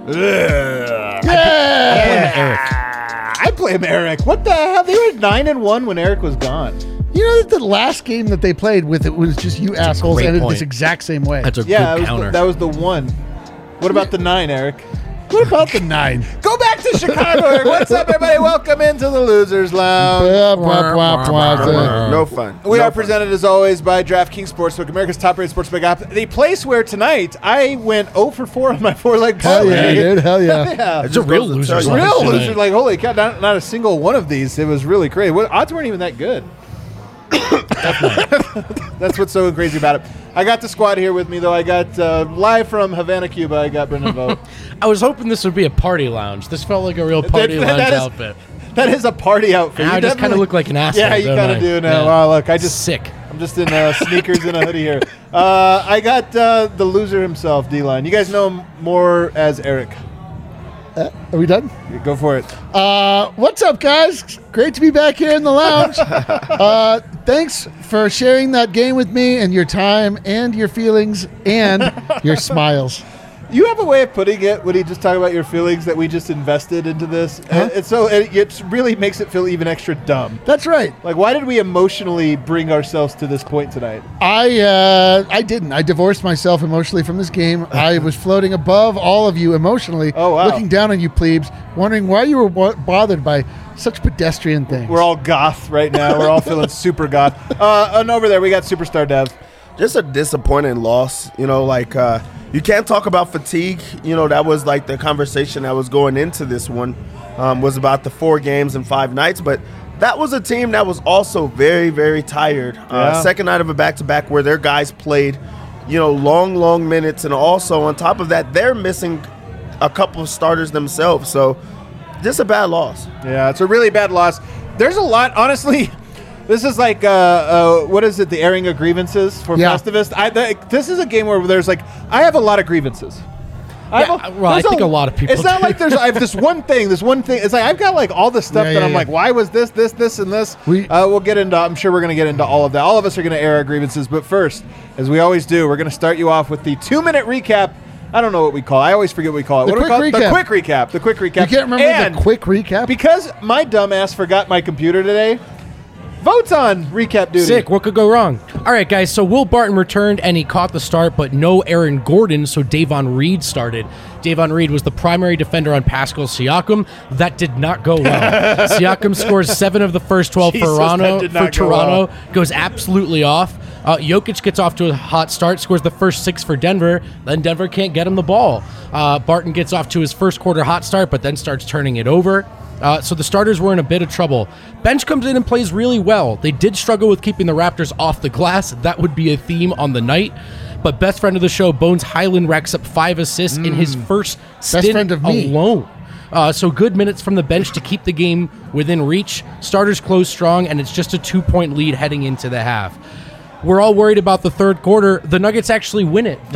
I blame Eric. What the hell? They were 9-1 when Eric was gone. You know that the last game that they played with it was just you assholes ended this exact same way. That's a good counter. That was the one. What about the 9, Eric? What about the 9? Go back to Chicago, Eric. What's up, everybody? Welcome into the Losers Lounge. No fun. We are presented, as always, by DraftKings Sportsbook, America's top-rated sportsbook app. The place where tonight I went 0 for 4 on my 4-leg parlay. Hell yeah, dude. Hell yeah. Yeah. It's a real loser. Real loser. Like, holy cow, not a single one of these. It was really crazy. Odds weren't even that good. That's what's so crazy about it. I got the squad here with me, though. I got live from Havana, Cuba. I got Brendan Vogt. I was hoping this would be a party lounge. This felt like a real party lounge outfit. That is a party outfit. I just kind of look like an asshole. Yeah, you kind of do now. Yeah. Wow, look, I'm just in sneakers and a hoodie here. I got the loser himself, D-Line. You guys know him more as Eric. Are we done? Go for it. What's up, guys? Great to be back here in the lounge. Thanks for sharing that game with me and your time and your feelings and your smiles. You have a way of putting it when you just talk about your feelings that we just invested into this. Huh? It really makes it feel even extra dumb. That's right. Like, why did we emotionally bring ourselves to this point tonight? I didn't. I divorced myself emotionally from this game. I was floating above all of you emotionally, looking down on you plebes, wondering why you were bothered by such pedestrian things. We're all goth right now. We're all feeling super goth. And over there, we got Superstar Dev. Just a disappointing loss. You can't talk about fatigue. That was like the conversation that was going into this one was about the 4 games and 5 nights. But that was a team that was also very, very tired. Second night of a back-to-back where their guys played, long minutes. And also on top of that, they're missing a couple of starters themselves. So just a bad loss. Yeah, it's a really bad loss. There's a lot, honestly. This is like, what is it, the airing of grievances for Festivus? This is a game where there's I have a lot of grievances. I think a lot of people It's not like I have this one thing. It's like I've got all this stuff that I'm like, why was this, and this? We'll get into, I'm sure we're going to get into all of that. All of us are going to air our grievances. But first, as we always do, we're going to start you off with the 2-minute recap. I don't know what we call it. I always forget what we call it. The quick recap. The quick recap. You can't remember the quick recap? Because my dumb ass forgot my computer today. Votes on recap duty. Sick. What could go wrong? All right, guys. So Will Barton returned, and he caught the start, but no Aaron Gordon, so Davon Reed started. Davon Reed was the primary defender on Pascal Siakam. That did not go well. Siakam scores 7 of the first 12 for Toronto. Goes absolutely off. Jokic gets off to a hot start, scores the first 6 for Denver. Then Denver can't get him the ball. Barton gets off to his first quarter hot start, but then starts turning it over. So the starters were in a bit of trouble. Bench comes in and plays really well. They did struggle with keeping the Raptors off the glass. That would be a theme on the night. But best friend of the show, Bones Highland, racks up 5 assists in his first stint alone. So good minutes from the bench to keep the game within reach. Starters close strong, and it's just a 2-point lead heading into the half. We're all worried about the third quarter. The Nuggets actually win it,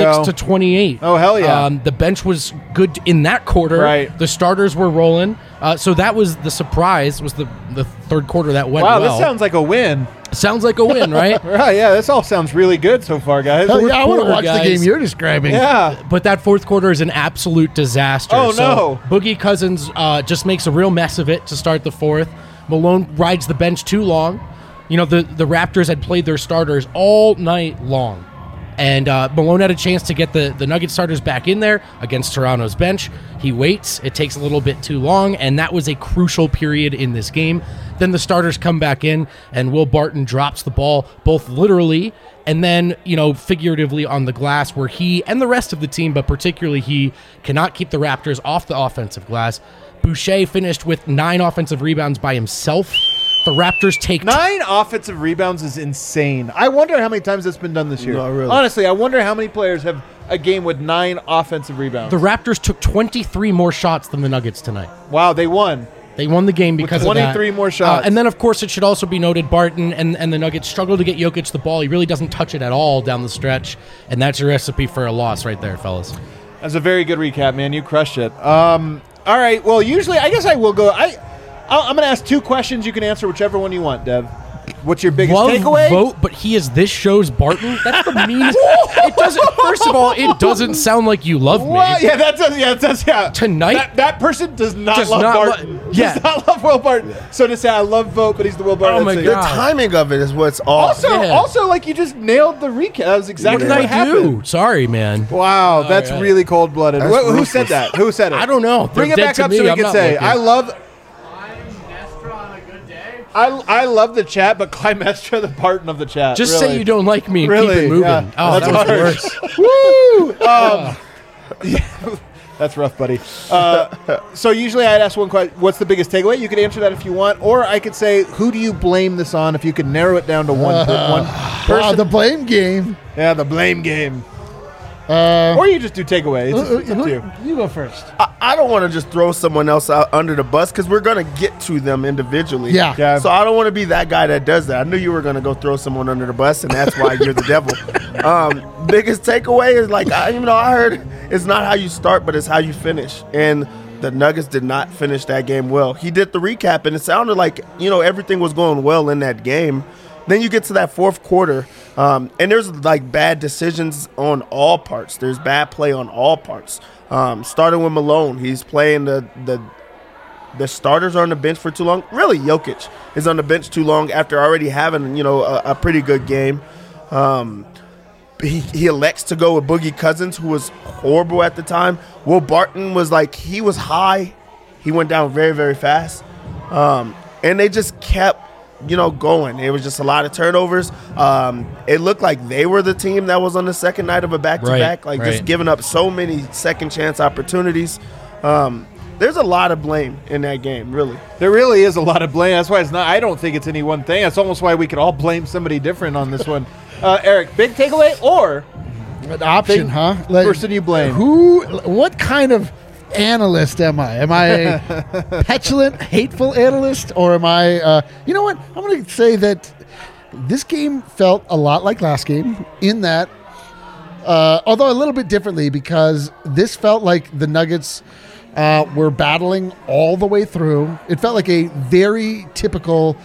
36-28. Oh, hell yeah. The bench was good in that quarter. Right. The starters were rolling. So that was the surprise, was the third quarter that went well. Wow, this sounds like a win. Sounds like a win, right? Right, yeah, this all sounds really good so far, guys. Hell yeah, I want to watch the game you're describing. Yeah. But that fourth quarter is an absolute disaster. Oh, so no. Boogie Cousins just makes a real mess of it to start the fourth. Malone rides the bench too long. The Raptors had played their starters all night long. And Malone had a chance to get the Nugget starters back in there against Toronto's bench. He waits. It takes a little bit too long, and that was a crucial period in this game. Then the starters come back in, and Will Barton drops the ball, both literally and then, figuratively on the glass, where he and the rest of the team, but particularly he, cannot keep the Raptors off the offensive glass. Boucher finished with 9 offensive rebounds by himself. The Raptors take 9 offensive rebounds is insane. I wonder how many times that's been done this year. No, really. Honestly, I wonder how many players have a game with 9 offensive rebounds. The Raptors took 23 more shots than the Nuggets tonight. Wow, they won. They won the game because of that. 23 more shots. And then, of course, it should also be noted, Barton and the Nuggets struggle to get Jokic the ball. He really doesn't touch it at all down the stretch, and that's a recipe for a loss right there, fellas. That's a very good recap, man. You crushed it. All right, well, usually, I guess I will go. I'm going to ask 2 questions. You can answer whichever one you want, Dev. What's your biggest Love takeaway? Vote, but he is this show's Barton. That's the meanest. It doesn't. First of all, it doesn't sound like you love me. Yeah, that does. Yeah, it does. Yeah. Tonight, that person does not love Barton. Does not love Will Barton. So to say I love Vote, but he's the Will Barton. Oh my God. The timing of it is what's off. Also, like you just nailed the recap. That was exactly what happened. do? Sorry, man. Wow, that's really cold blooded. Who said that? Who said it? I don't know. Bring it back up so we can say I love. I love the chat, but Climestra the Barton of the chat. Just really. say you don't like me and really? keep it moving. Yeah. Oh, that's worse. Woo! Yeah, that's rough, buddy. So usually I'd ask one question, what's the biggest takeaway? You could answer that if you want, or I could say, who do you blame this on if you could narrow it down to one person? Wow, the blame game. Yeah, the blame game. Or you just do takeaway. It's up to you. You go first. I don't want to just throw someone else out under the bus because we're going to get to them individually. Yeah. So I don't want to be that guy that does that. I knew you were going to go throw someone under the bus, and that's why you're the devil. Biggest takeaway is I heard it's not how you start, but it's how you finish. And the Nuggets did not finish that game well. He did the recap, and it sounded like, everything was going well in that game. Then you get to that fourth quarter, and there's like bad decisions on all parts. There's bad play on all parts. Starting with Malone, he's playing the starters are on the bench for too long. Really, Jokic is on the bench too long after already having a pretty good game. He elects to go with Boogie Cousins, who was horrible at the time. Will Barton was he was high. He went down very, very fast. And they just kept going. It was just a lot of turnovers. It looked like they were the team that was on the second night of a back-to-back, just giving up so many second-chance opportunities. There's a lot of blame in that game, really. There really is a lot of blame. That's why it's not. I don't think it's any one thing. That's almost why we could all blame somebody different on this one. Eric, big takeaway or an option, huh? Person you blame. What kind of analyst am I? Am I a petulant, hateful analyst, or am I? You know what? I'm going to say that this game felt a lot like last game in that, although a little bit differently, because this felt like the Nuggets were battling all the way through. It felt like a very typical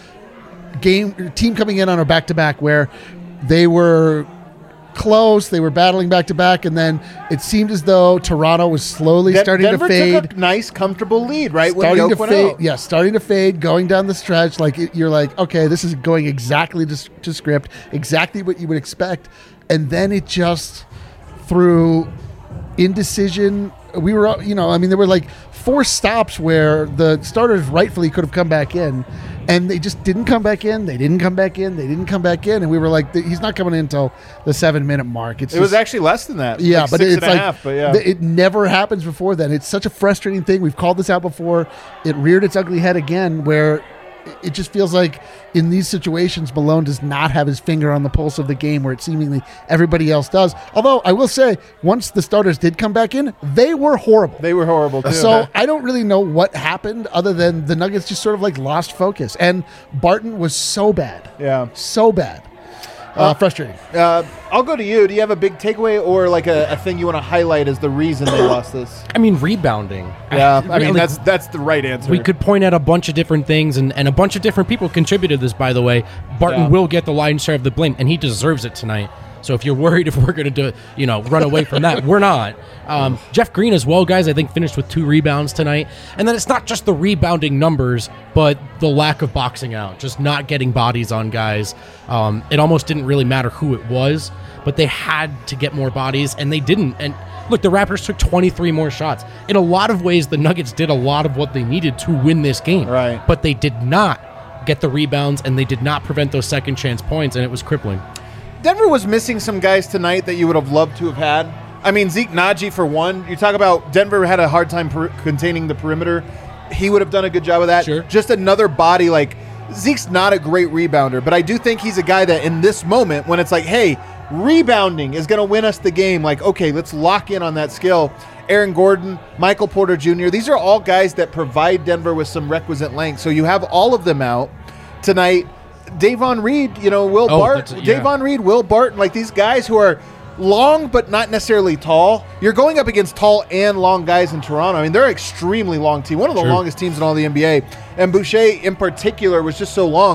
team coming in on a back-to-back where they were close, they were battling back-to-back, and then it seemed as though Toronto was slowly starting Denver to fade. Took a nice, comfortable lead, right? Starting to fade, yeah, starting to fade, going down the stretch. You're like, okay, this is going exactly to script, exactly what you would expect. And then it just, through indecision, we were, there were like 4 stops where the starters rightfully could have come back in, and they just didn't come back in. They didn't come back in. They didn't come back in. And we were like, he's not coming in until the 7-minute mark. It was actually less than that. Yeah, but it's like, half, but yeah. It never happens before then. It's such a frustrating thing. We've called this out before. It reared its ugly head again, where it just feels like in these situations, Malone does not have his finger on the pulse of the game where it seemingly everybody else does. Although I will say, once the starters did come back in, they were horrible. They were horrible too. So I don't really know what happened other than the Nuggets just sort of lost focus. And Barton was so bad. Yeah. So bad. Frustrating. I'll go to you. Do you have a big takeaway or a thing you want to highlight as the reason they lost this? I mean, rebounding. Yeah, that's the right answer. We could point out a bunch of different things, and a bunch of different people contributed to this, by the way. Barton will get the lion's share of the blame, and he deserves it tonight. So if you're worried if we're going to run away from that, we're not. Jeff Green as well, guys, I think finished with 2 rebounds tonight. And then it's not just the rebounding numbers, but the lack of boxing out, just not getting bodies on guys. It almost didn't really matter who it was, but they had to get more bodies, and they didn't. And look, the Raptors took 23 more shots. In a lot of ways, the Nuggets did a lot of what they needed to win this game. Right. But they did not get the rebounds, and they did not prevent those second chance points, and it was crippling. Denver was missing some guys tonight that you would have loved to have had. I mean, Zeke Naji, for one. You talk about Denver had a hard time containing the perimeter. He would have done a good job of that. Sure. Just another body. Zeke's not a great rebounder, but I do think he's a guy that in this moment, when it's like, hey, rebounding is going to win us the game, okay, let's lock in on that skill. Aaron Gordon, Michael Porter Jr., these are all guys that provide Denver with some requisite length. So you have all of them out tonight. Davon Reed, Will Barton. Davon Reed, Will Barton, these guys who are long but not necessarily tall. You're going up against tall and long guys in Toronto. I mean, they're an extremely long team, one of the longest teams in all the NBA. And Boucher, in particular, was just so long.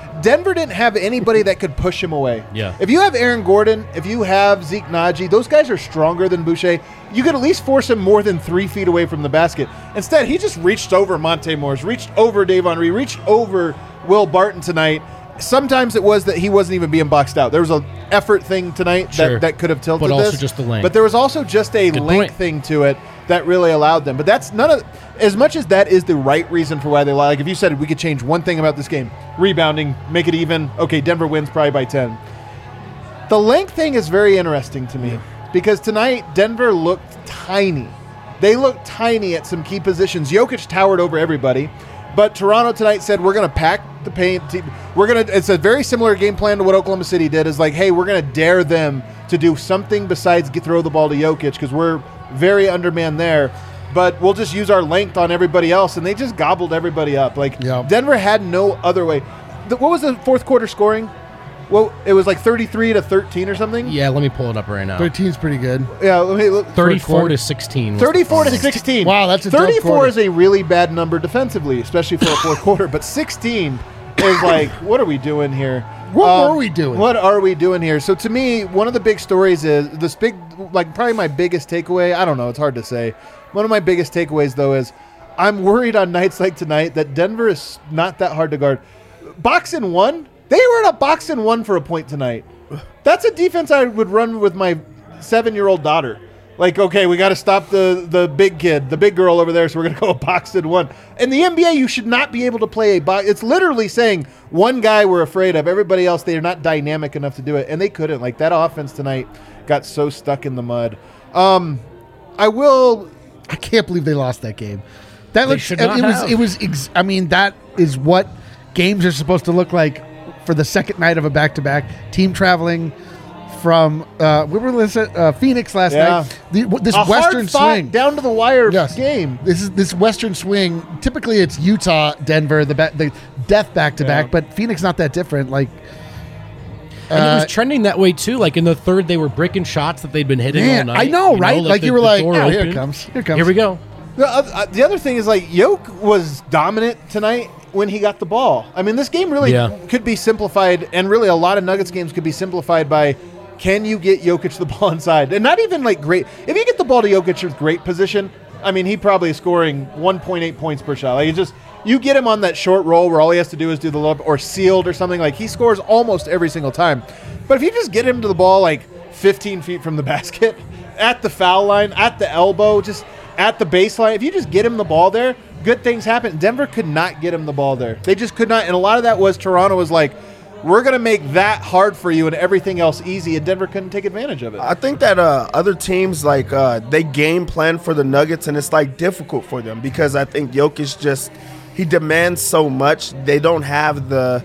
Denver didn't have anybody that could push him away. Yeah. If you have Aaron Gordon, if you have Zeke Naji, those guys are stronger than Boucher. You could at least force him more than 3 feet away from the basket. Instead, he just reached over Monte Morris, reached over Davon Reed, reached over Will Barton tonight. Sometimes it was that he wasn't even being boxed out. There was an effort thing tonight that could have tilted but also this. just the length. But there was also just a Good length point. thing to it that really allowed them. But that's none of, as much as that is the right reason for why they lie. Like if you said we could change one thing about this game, rebounding, make it even. Okay, Denver wins probably by 10. The length thing is very interesting to me because tonight Denver looked tiny. They looked tiny at some key positions. Jokic towered over everybody. But Toronto tonight said, we're going to pack the paint. It's a very similar game plan to what Oklahoma City did. Is like, hey, we're going to dare them to do something besides throw the ball to Jokic because we're very undermanned there. But we'll just use our length on everybody else. And they just gobbled everybody up. Like, Denver had no other way. What was the fourth quarter scoring? Well, it was like 33-13 or something. Yeah, let me pull it up right now. 13 is pretty good. Yeah, let me look. 34-16. 34-16. Wow, that's a 34 is a really bad number defensively, especially for a fourth quarter. But 16 is like, what are we doing here? What are we doing? What are we doing here? So to me, one of the big stories is this big, like probably my biggest takeaway. I don't know. It's hard to say. One of my biggest takeaways though is I'm worried on nights like tonight that Denver is not that hard to guard. Box in one. They were in a box in one for a point tonight. That's a defense I would run with my 7-year-old daughter. Like, okay, we got to stop the big kid, the big girl over there, so we're going to go a box in one. In the NBA, you should not be able to play a box. It's literally saying one guy we're afraid of. Everybody else, they are not dynamic enough to do it, and they couldn't. Like, that offense tonight got so stuck in the mud. I can't believe they lost that game. That They looks. should not have. I mean, that is what games are supposed to look like for the second night of a back-to-back. Team traveling from Phoenix last night. This a Western hard-fought, swing down to the wire game. This Western swing. Typically, it's Utah, Denver, the death back-to-back. Yeah. But Phoenix not that different. Like, and it was trending that way too. Like in the third, they were bricking shots that they'd been hitting all night. I know, right? Like you were like, door oh, here open. it comes. Here we go. The other thing is, like, Jokic was dominant tonight when he got the ball. I mean, this game really could be simplified, and really a lot of Nuggets games could be simplified by, can you get Jokic the ball inside? And not even, like, great. If you get the ball to Jokic with great position, I mean, he probably is scoring 1.8 points per shot. Like, you get him on that short roll where all he has to do is do the lob or sealed or something. Like, he scores almost every single time. But if you just get him to the ball, like, 15 feet from the basket, at the foul line, at the elbow, just at the baseline, if you just get him the ball there, good things happen. Denver could not get him the ball there. They just could not. And a lot of that was Toronto was like, we're going to make that hard for you and everything else easy, and Denver couldn't take advantage of it. I think that other teams, like, they game plan for the Nuggets, and it's, like, difficult for them because I think Jokic he demands so much. They don't have the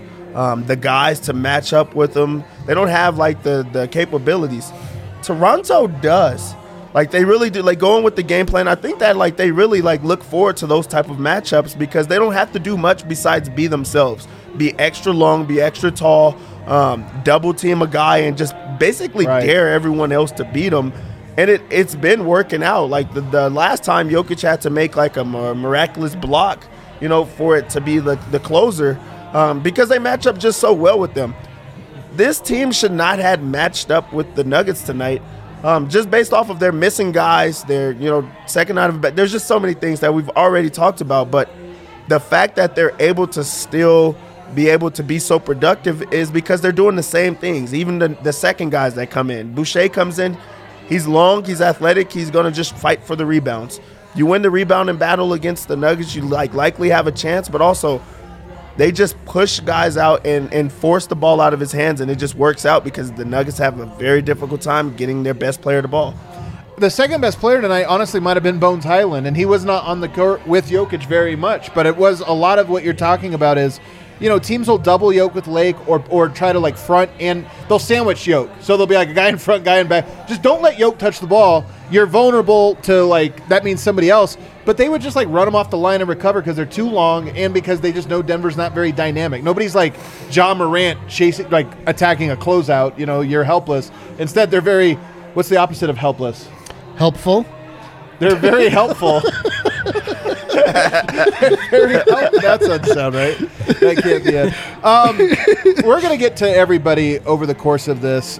guys to match up with him. They don't have, like, the capabilities. Toronto does. Like, they really do. Like, going with the game plan, I think that, like, they really, like, look forward to those type of matchups because they don't have to do much besides be themselves. Be extra long, be extra tall, double team a guy, and just basically dare everyone else to beat them. And it's been working out. Like, the last time Jokic had to make, like, a miraculous block, for it to be the closer because they match up just so well with them. This team should not have matched up with the Nuggets tonight. Just based off of their missing guys, their second out of bed. There's just so many things that we've already talked about, but the fact that they're able to still be able to be so productive is because they're doing the same things. Even the second guys that come in, Boucher comes in, he's long, he's athletic, he's gonna just fight for the rebounds. You win the rebounding battle against the Nuggets, you likely have a chance, but also they just push guys out and force the ball out of his hands, and it just works out because the Nuggets have a very difficult time getting their best player the ball. The second best player tonight honestly might have been Bones Highland, and he was not on the court with Jokic very much, but it was a lot of what you're talking about is, teams will double Jokic with Lake or try to, like, front, and they'll sandwich Jokic. So they'll be like a guy in front, guy in back. Just don't let Jokic touch the ball. You're vulnerable to, like, that means somebody else. But they would just, like, run him off the line and recover because they're too long and because they just know Denver's not very dynamic. Nobody's like John Morant chasing, like, attacking a closeout. You're helpless. Instead, they're very, what's the opposite of helpless? Helpful. They're very helpful. That doesn't sound right. That can't be it. We're going to get to everybody over the course of this.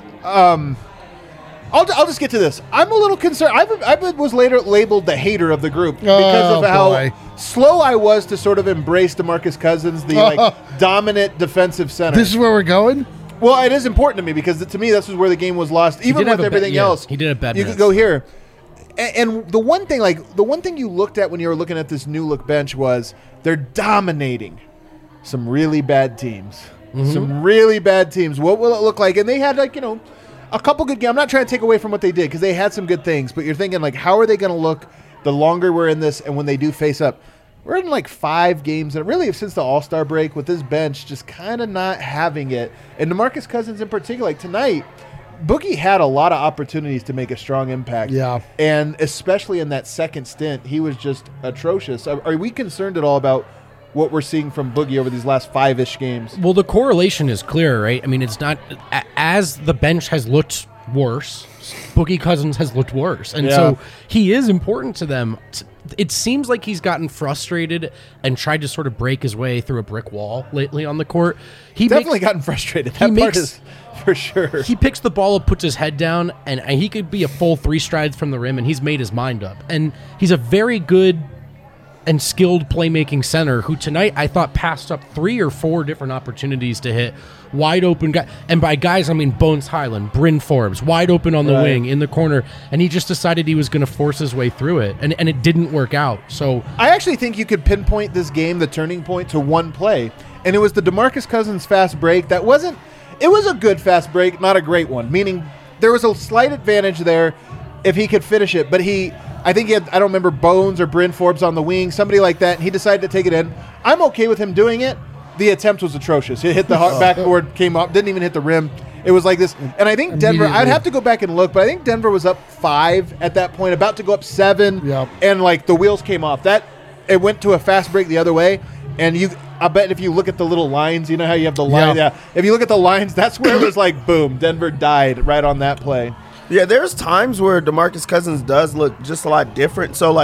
I'll just get to this. I'm a little concerned. I was later labeled the hater of the group because of how slow I was to sort of embrace DeMarcus Cousins, the dominant defensive center. This is where we're going? Well, it is important to me because to me this is where the game was lost. Even with everything else, he did a bad. You could go here. And the one thing you looked at when you were looking at this new look bench was they're dominating some really bad teams. Mm-hmm. Some really bad teams. What will it look like? And they had a couple good games. I'm not trying to take away from what they did because they had some good things, but you're thinking how are they going to look the longer we're in this and when they do face up? We're in 5 games and really since the All-Star break with this bench just kind of not having it. And DeMarcus Cousins in particular, tonight, Boogie had a lot of opportunities to make a strong impact. Yeah. And especially in that second stint, he was just atrocious. Are we concerned at all about what we're seeing from Boogie over these last 5-ish games? Well, the correlation is clear, right? I mean, it's not as the bench has looked worse, Boogie Cousins has looked worse. And so he is important to them. It seems like he's gotten frustrated and tried to sort of break his way through a brick wall lately on the court. He definitely gotten frustrated. That part is for sure. He picks the ball up, puts his head down, and he could be a full 3 strides from the rim, and he's made his mind up. And he's a very good and skilled playmaking center who tonight I thought passed up 3 or 4 different opportunities to hit wide open guy. And by guys, I mean Bones Highland, Bryn Forbes, wide open on the wing in the corner. And he just decided he was going to force his way through it. And it didn't work out. So I actually think you could pinpoint this game, the turning point, to one play. And it was the DeMarcus Cousins fast break. It was a good fast break, not a great one. Meaning there was a slight advantage there if he could finish it. But I think he had, I don't remember, Bones or Bryn Forbes on the wing, somebody like that, and he decided to take it in. I'm okay with him doing it. The attempt was atrocious. It hit the backboard, came up, didn't even hit the rim. It was like this. And I think Denver, I'd have to go back and look, but I think Denver was up 5 at that point, about to go up 7, and the wheels came off. It went to a fast break the other way, and I bet if you look at the little lines, you know how you have the line? Yeah. If you look at the lines, that's where it was boom, Denver died right on that play. Yeah, there's times where DeMarcus Cousins does look just a lot different. So,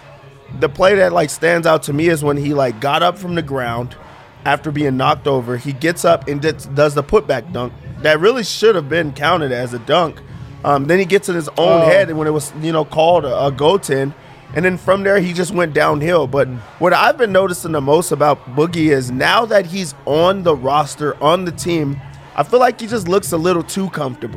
the play that, stands out to me is when he, got up from the ground after being knocked over. He gets up and does the putback dunk. That really should have been counted as a dunk. Then he gets in his own head when it was, called a goaltend. And then from there, he just went downhill. But what I've been noticing the most about Boogie is now that he's on the roster, on the team, I feel like he just looks a little too comfortable.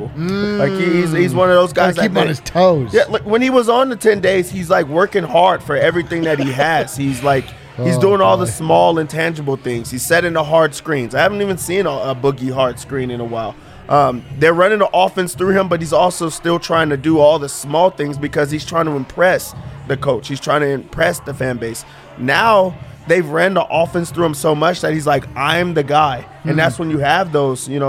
He's one of those guys that keep on his toes. Yeah, when he was on the 10 days, he's working hard for everything that he has. He's doing all the small intangible things. He's setting the hard screens. I haven't even seen a Boogie hard screen in a while. They're running the offense through him, but he's also still trying to do all the small things because he's trying to impress the coach. He's trying to impress the fan base. Now they've ran the offense through him so much that he's I'm the guy. And that's when you have those, bull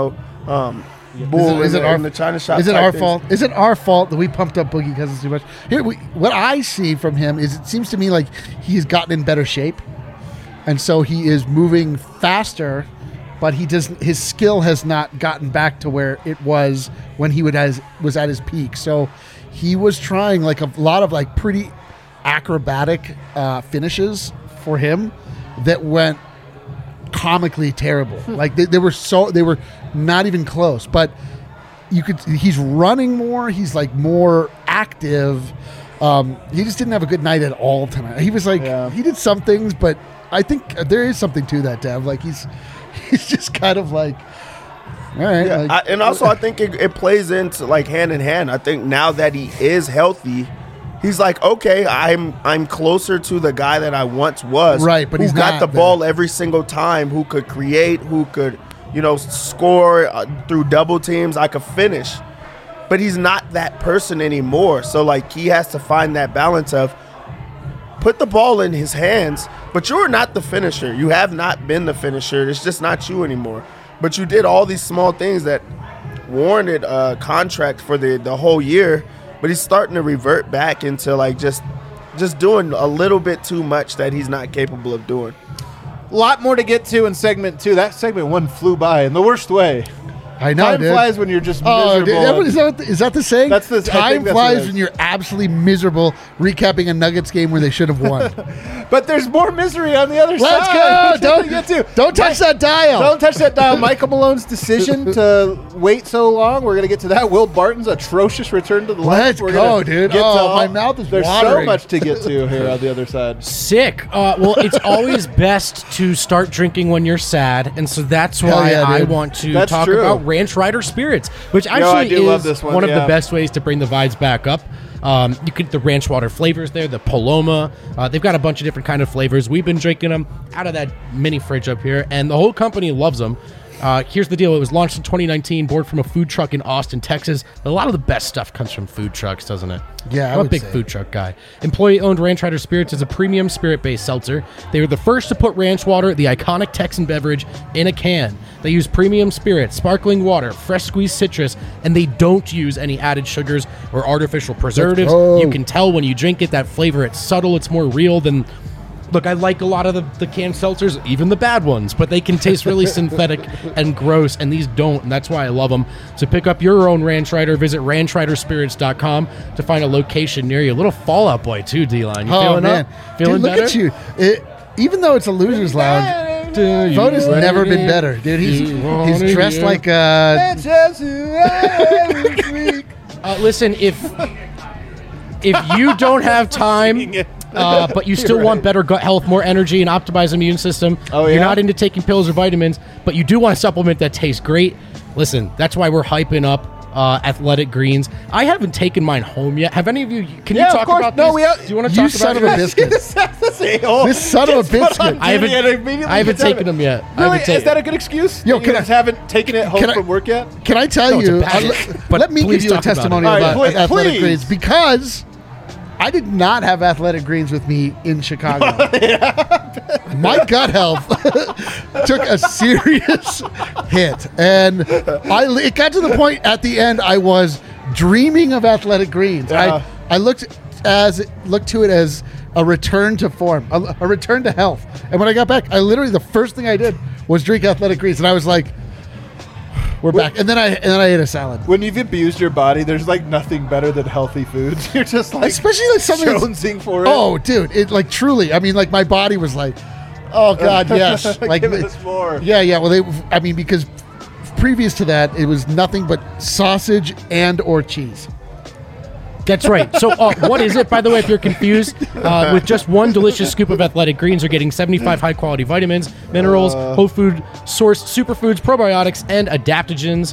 is it the China shop. Is it our fault? Is it our fault that we pumped up Boogie Cousins too much? Here, what I see from him is it seems to me like he's gotten in better shape. And so he is moving faster, but his skill has not gotten back to where it was when he was at his peak. So he was trying a lot of pretty acrobatic finishes for him that went comically terrible. They were not even close. But he's running more. He's more active. He just didn't have a good night at all tonight. He was he did some things, but I think there is something to that, Dev. He's just kind of all right. Yeah, and also I think it plays into hand in hand. I think now that he is healthy, he's okay, I'm closer to the guy that I once was. Right, but he's got the ball every single time, who could create, who could, score through double teams. I could finish. But he's not that person anymore. So, he has to find that balance of put the ball in his hands, but you're not the finisher. You have not been the finisher. It's just not you anymore. But you did all these small things that warranted a contract for the whole year. But he's starting to revert back into just doing a little bit too much that he's not capable of doing. A lot more to get to in segment 2. That segment 1 flew by in the worst way. I know, Time dude. flies when you're just Oh, miserable. dude, is that the saying? That's the- I Time think that's flies what it is. when you're absolutely miserable recapping a Nuggets game where they should have won. But there's more misery on the other Let's side. go! Don't touch that dial. Don't touch that dial. Michael Malone's decision to wait so long. We're going to get to that. Will Barton's atrocious return to the Let's left. We're go, gonna dude. get to Oh, all- my mouth is There's watering. so much to get to here on the other side. Sick. Well, it's always best to start drinking when you're sad, and so that's Hell why yeah, I dude. want to That's talk true. about Ranch Rider Spirits, which I actually do love is this one, one of yeah. the best ways to bring the vibes back up. You get the ranch water flavors there, the Paloma. They've got a bunch of different kind of flavors. We've been drinking them out of that mini fridge up here, and the whole company loves them. Here's the deal. It was launched in 2019, born from a food truck in Austin, Texas. A lot of the best stuff comes from food trucks, doesn't it? Yeah, I I'm a would big say. food truck guy. Employee-owned Ranch Rider Spirits is a premium spirit-based seltzer. They were the first to put ranch water, the iconic Texan beverage, in a can. They use premium spirit, sparkling water, fresh squeezed citrus, and they don't use any added sugars or artificial preservatives. go. You can tell when you drink it, that flavor, it's subtle, it's more real than... Look, I like a lot of the canned seltzers, even the bad ones, but they can taste really synthetic and gross, and these don't, and that's why I love them. So pick up your own Ranch Rider. Visit ranchriderspirits.com to find a location near you. A little Fall Out Boy, too, D-Line. You feeling up? Feeling dude, look better? at you. Even though it's a loser's lounge, Vote has never been better, dude. He's dressed like a... Listen, if you don't have time... but you still want better gut health, more energy, and optimized immune system. Oh, You're yeah? not into taking pills or vitamins, but you do want a supplement that tastes great. Listen, that's why we're hyping up Athletic Greens. I haven't taken mine home yet. Have any of you? Can you Yeah, of talk course. about No, these? we Do you want to You talk son about of a it? biscuit. This son of a biscuit. I haven't taken them yet. I Really? haven't taken- Is that a good excuse? Yo, You can guys I- haven't taken it home can I- from work yet? Can I tell No, it's a you? bad but let me please give you a talk about it. testimony All right, about Athletic please. Greens because I did not have Athletic Greens with me in Chicago. My gut health took a serious hit, and it got to the point at the end I was dreaming of Athletic Greens. Yeah. I looked to it as a return to form, a return to health. And when I got back, the first thing I did was drink Athletic Greens, and I was like, "We're back." And then I ate a salad. When you've abused your body, there's like nothing better than healthy foods. You're just like Especially like something that's- jonesing for it. Oh, dude, it like truly. I mean, like my body was like, "Oh God, yes!" Like, Give us more. yeah. Well, because previous to that, it was nothing but sausage and or cheese. That's right. So what is it, by the way, if you're confused? With just one delicious scoop of Athletic Greens, you're getting 75 high-quality vitamins, minerals, whole food sourced superfoods, probiotics, and adaptogens.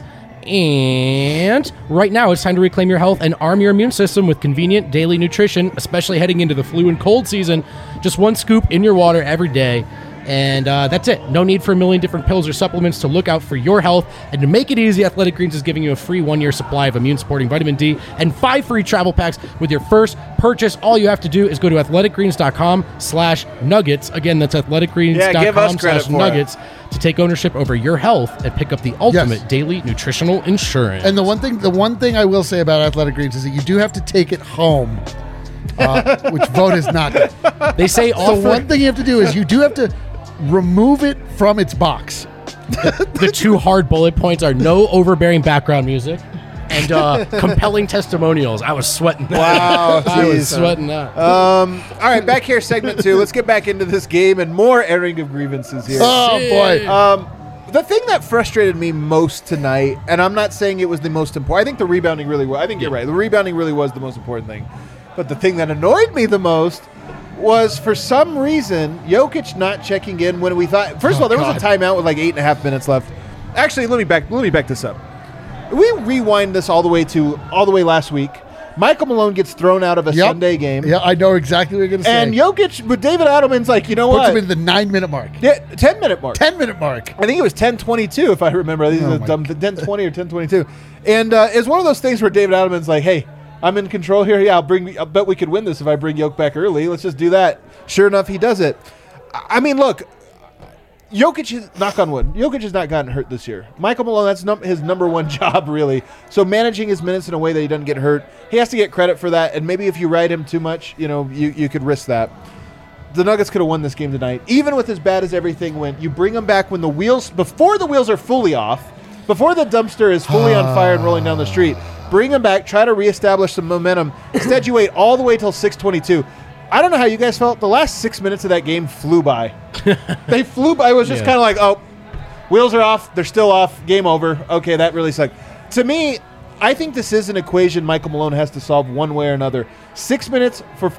And right now, it's time to reclaim your health and arm your immune system with convenient daily nutrition, especially heading into the flu and cold season. Just one scoop in your water every day. And that's it. No need for a million different pills or supplements to look out for your health. And to make it easy, Athletic Greens is giving you a free 1-year supply of immune-supporting vitamin D and 5 free travel packs with your first purchase. All you have to do is go to athleticgreens.com/nuggets. Again, that's Yeah, give us credit athleticgreens.com/nuggets to take ownership over your health and pick up the ultimate daily nutritional insurance. And the one thing I will say about Athletic Greens is that you do have to take it home, which Vote is not. They say So offer one thing you have to do is you do have to remove it from its box. the 2 hard bullet points are no overbearing background music and compelling testimonials. I was sweating that. Wow, I was geez. sweating that. All right, back here, segment 2. Let's get back into this game and more airing of grievances here. Oh boy. The thing that frustrated me most tonight, and I'm not saying it was the most important. I think the rebounding really was. I think you're right. The rebounding really was the most important thing. But the thing that annoyed me the most was, for some reason, Jokic not checking in when we thought. First of all, there was a timeout with like 8.5 minutes left. Actually, let me back this up. We rewind this all the way last week. Michael Malone gets thrown out of a Sunday game. Yeah, I know exactly what you're going to say. And Jokic, but David Adelman's like, you know puts what? him in the 9-minute mark. Yeah, 10-minute mark. 10-minute mark. I think it was 10:22 if I remember. I think it was my 10:20 or 10:22. And it's one of those things where David Adelman's like, hey, I'm in control here. Yeah, I bet we could win this if I bring Jokic back early. Let's just do that. Sure enough, he does it. I mean, look, Jokic, knock on wood, Jokic has not gotten hurt this year. Michael Malone, that's his number one job, really. So managing his minutes in a way that he doesn't get hurt, he has to get credit for that. And maybe if you ride him too much, you could risk that. The Nuggets could have won this game tonight. Even with as bad as everything went, you bring them back before the wheels are fully off. before the dumpster is fully on fire and rolling down the street. Bring him back, try to reestablish some momentum. Instead, you wait all the way till 6:22. I don't know how you guys felt. The last 6 minutes of that game flew by. They flew by. It was just kind of like, oh, wheels are off. They're still off. Game over. Okay, that really sucked. To me, I think this is an equation Michael Malone has to solve one way or another. 6 minutes for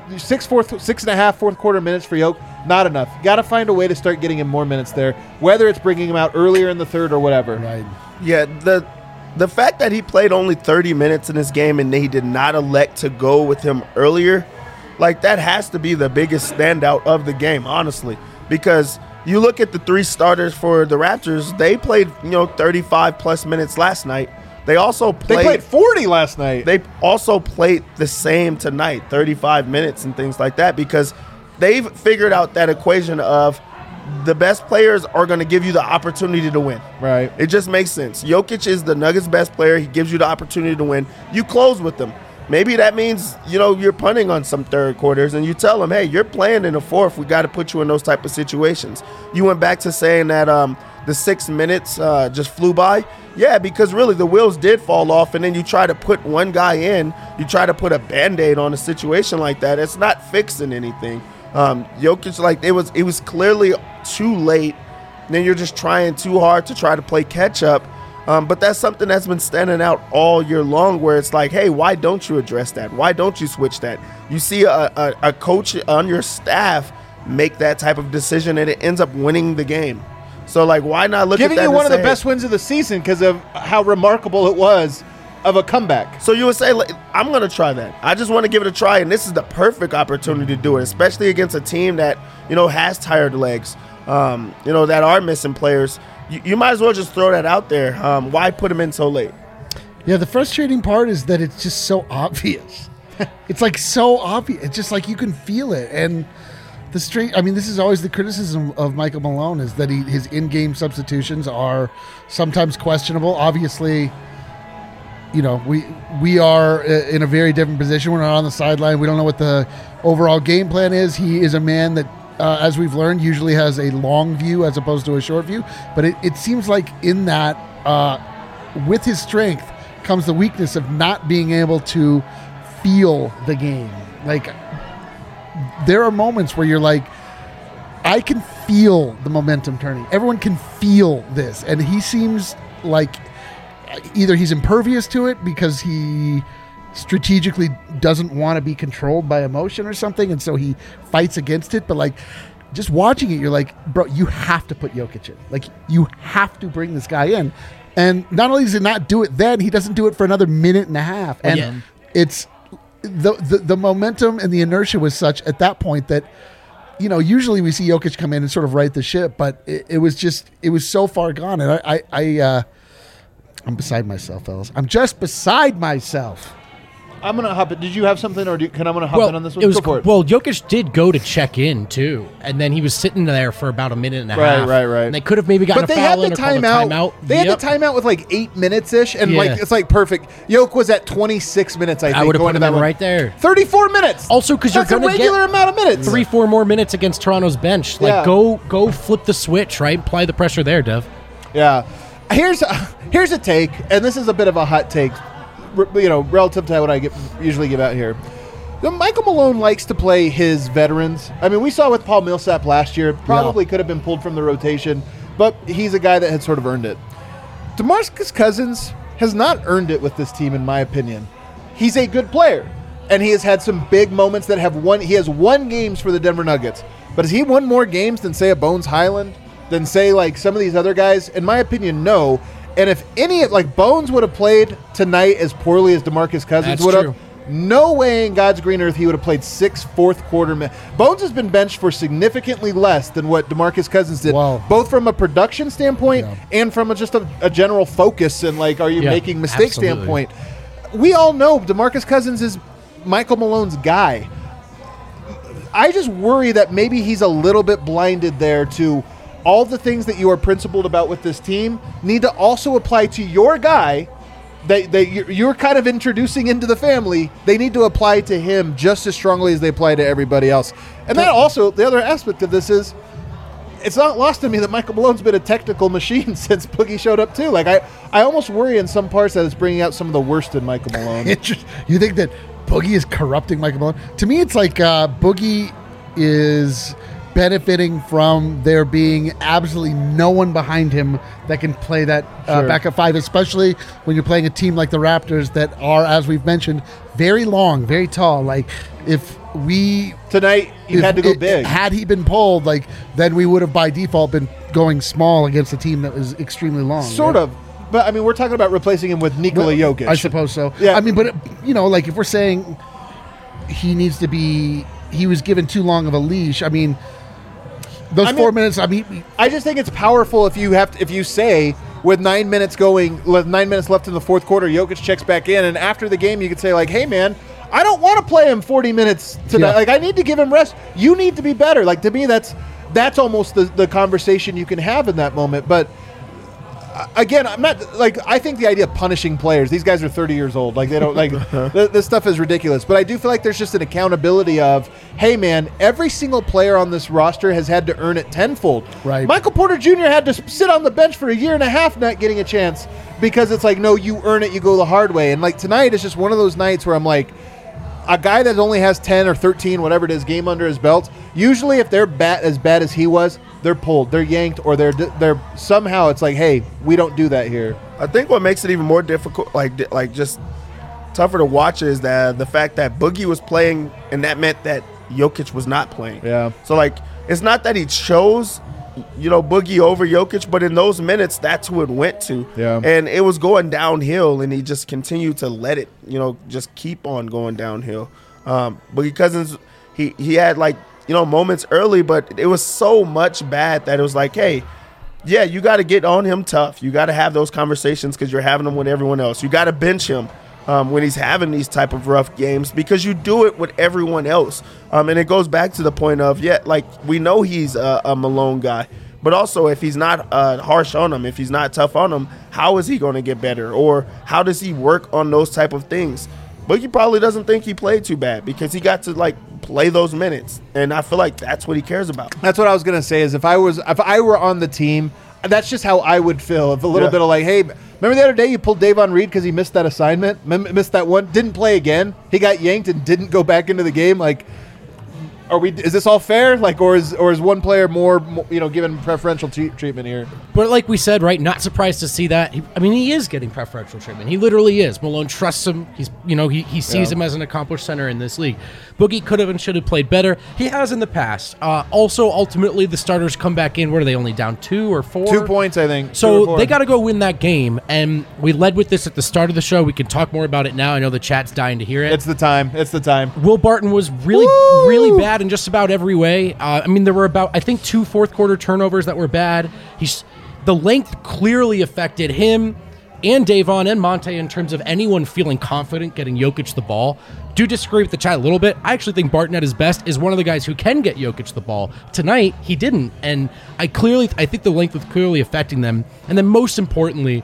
6.5 fourth quarter minutes for Yoke, not enough. Got to find a way to start getting him more minutes there, whether it's bringing him out earlier in the third or whatever. Right. Yeah, the fact that he played only 30 minutes in this game and he did not elect to go with him earlier, like that has to be the biggest standout of the game, honestly, because you look at the three starters for the Raptors, they played 35 plus minutes last night. They played 40 last night. They also played the same tonight, 35 minutes and things like that, because they've figured out that equation of the best players are going to give you the opportunity to win. Right. It just makes sense. Jokic is the Nuggets' best player. He gives you the opportunity to win. You close with them. Maybe that means, you're punting on some third quarters and you tell them, hey, you're playing in the fourth. We got to put you in those type of situations. You went back to saying that the 6 minutes just flew by. Yeah, because really the wheels did fall off, and then you try to put one guy in. You try to put a Band-Aid on a situation like that. It's not fixing anything. Jokic, it was clearly too late. Then you're just trying too hard to try to play catch up. But that's something that's been standing out all year long, where it's like, hey, why don't you address that? Why don't you switch that? You see a coach on your staff make that type of decision, and it ends up winning the game. So, why not look at that? Giving you one of the best wins of the season because of how remarkable it was of a comeback. So you would say, I'm going to try that. I just want to give it a try, and this is the perfect opportunity to do it, especially against a team that, has tired legs, that are missing players. You might as well just throw that out there. Why put them in so late? Yeah, the frustrating part is that it's just so obvious. It's so obvious. It's just you can feel it. And this is always the criticism of Michael Malone, is that his in-game substitutions are sometimes questionable. Obviously, we are in a very different position. We're not on the sideline. We don't know what the overall game plan is. He is a man that, as we've learned, usually has a long view as opposed to a short view. But it seems like in that, with his strength comes the weakness of not being able to feel the game. There are moments where you're I can feel the momentum turning. Everyone can feel this. And he seems like either he's impervious to it because he strategically doesn't want to be controlled by emotion or something, and so he fights against it. But just watching it, you're bro, you have to put Jokic in. You have to bring this guy in. And not only does he not do it then, he doesn't do it for another minute and a half. And it's the momentum and the inertia was such at that point that, usually we see Jokic come in and sort of right the ship, but it was so far gone. And I'm beside myself, fellas. I'm just beside myself. I'm going to hop in. Did you have something, or I'm going to hop in on this one? Go for it. Well, Jokic did go to check in, too, and then he was sitting there for about a minute and a half. Right. And they could have maybe gotten a foul in or called a timeout. They had the timeout with 8 minutes-ish, and it's perfect. Jokic was at 26 minutes, I think. I would have put him in right there. 34 minutes! Also, because you're going to get a regular amount of minutes. 3-4 more minutes against Toronto's bench. Go flip the switch, right? Apply the pressure there, Dev. Yeah. Here's a take, and this is a bit of a hot take, relative to what I usually give out here. Michael Malone likes to play his veterans. I mean, we saw with Paul Millsap last year. Probably could have been pulled from the rotation, but he's a guy that had sort of earned it. DeMarcus Cousins has not earned it with this team, in my opinion. He's a good player, and he has had some big moments that have won. He has won games for the Denver Nuggets, but has he won more games than, say, a Bones Highland, than, say, some of these other guys? In my opinion, no. And if Bones would have played tonight as poorly as DeMarcus Cousins would have, no way in God's green earth he would have played 6 fourth quarter minutes. Bones has been benched for significantly less than what DeMarcus Cousins did, both from a production standpoint and from just a general focus and are you making mistakes standpoint. We all know DeMarcus Cousins is Michael Malone's guy. I just worry that maybe he's a little bit blinded there to all the things that you are principled about with this team need to also apply to your guy that you're kind of introducing into the family. They need to apply to him just as strongly as they apply to everybody else. And that also, the other aspect of this is, it's not lost to me that Michael Malone's been a technical machine since Boogie showed up too. Like I almost worry in some parts that it's bringing out some of the worst in Michael Malone. You think that Boogie is corrupting Michael Malone? To me, it's like Boogie is benefiting from there being absolutely no one behind him that can play that backup five, especially when you're playing a team like the Raptors that are, as we've mentioned, very long, very tall. Like if we tonight you had to go big. Had he been pulled, like then we would have by default been going small against a team that was extremely long. Sort of. But I mean, we're talking about replacing him with Nikola Jokic. I suppose so. Yeah. I mean, but like if we're saying he was given too long of a leash. I mean, those 4 minutes. I mean, I just think it's powerful if you say with 9 minutes left in the fourth quarter, Jokic checks back in, and after the game, you could say like, "Hey, man, I don't want to play him 40 minutes tonight. Like, I need to give him rest. You need to be better." Like to me, that's almost the conversation you can have in that moment, but. Again, I'm not like I think the idea of punishing players. These guys are 30 years old. Like they don't like this stuff is ridiculous. But I do feel like there's just an accountability of, hey man, every single player on this roster has had to earn it tenfold. Right. Michael Porter Jr. had to sit on the bench for a year and a half not getting a chance because it's like, no, you earn it, you go the hard way. And like tonight is just one of those nights where I'm like, a guy that only has 10 or 13, whatever it is, game under his belt. Usually, if they're as bad as he was, they're pulled, they're yanked, or they're somehow it's like, hey, we don't do that here. I think what makes it even more difficult, like just tougher to watch, is that the fact that Boogie was playing, and that meant that Jokic was not playing. Yeah. So like, it's not that he chose, Boogie over Jokic, but in those minutes, that's who it went to. Yeah. And it was going downhill, and he just continued to let it, just keep on going downhill. Boogie Cousins, he had like, moments early, but it was so much bad that it was like, hey, yeah, you got to get on him tough. You got to have those conversations because you're having them with everyone else. You got to bench him when he's having these type of rough games because you do it with everyone else. And it goes back to the point of, we know he's a Malone guy, but also if he's not harsh on him, if he's not tough on him, how is he going to get better? Or how does he work on those type of things? Boogie probably doesn't think he played too bad because he got to play those minutes, and I feel like that's what he cares about. That's what I was gonna say. Is if I were on the team, that's just how I would feel. If a little bit of like, hey, remember the other day you pulled Davon Reed because he missed that assignment, missed that one, didn't play again. He got yanked and didn't go back into the game. Like, is this all fair? Like, or is one player more given preferential treatment here? But like we said, right? Not surprised to see that. He is getting preferential treatment. He literally is. Malone trusts him. He's, he sees him as an accomplished center in this league. Boogie could have and should have played better. He has in the past. Also, ultimately, the starters come back in. What are they, only down 2 or 4? 2 points, I think. So they got to go win that game. And we led with this at the start of the show. We can talk more about it now. I know the chat's dying to hear it. It's the time. Will Barton was really bad in just about every way. There were about, I think, 2 fourth-quarter turnovers that were bad. The length clearly affected him and Davon and Monte in terms of anyone feeling confident getting Jokic the ball. Do disagree with the chat a little bit. I actually think Barton at his best is one of the guys who can get Jokic the ball. Tonight, he didn't, and I think the length was clearly affecting them. And then most importantly,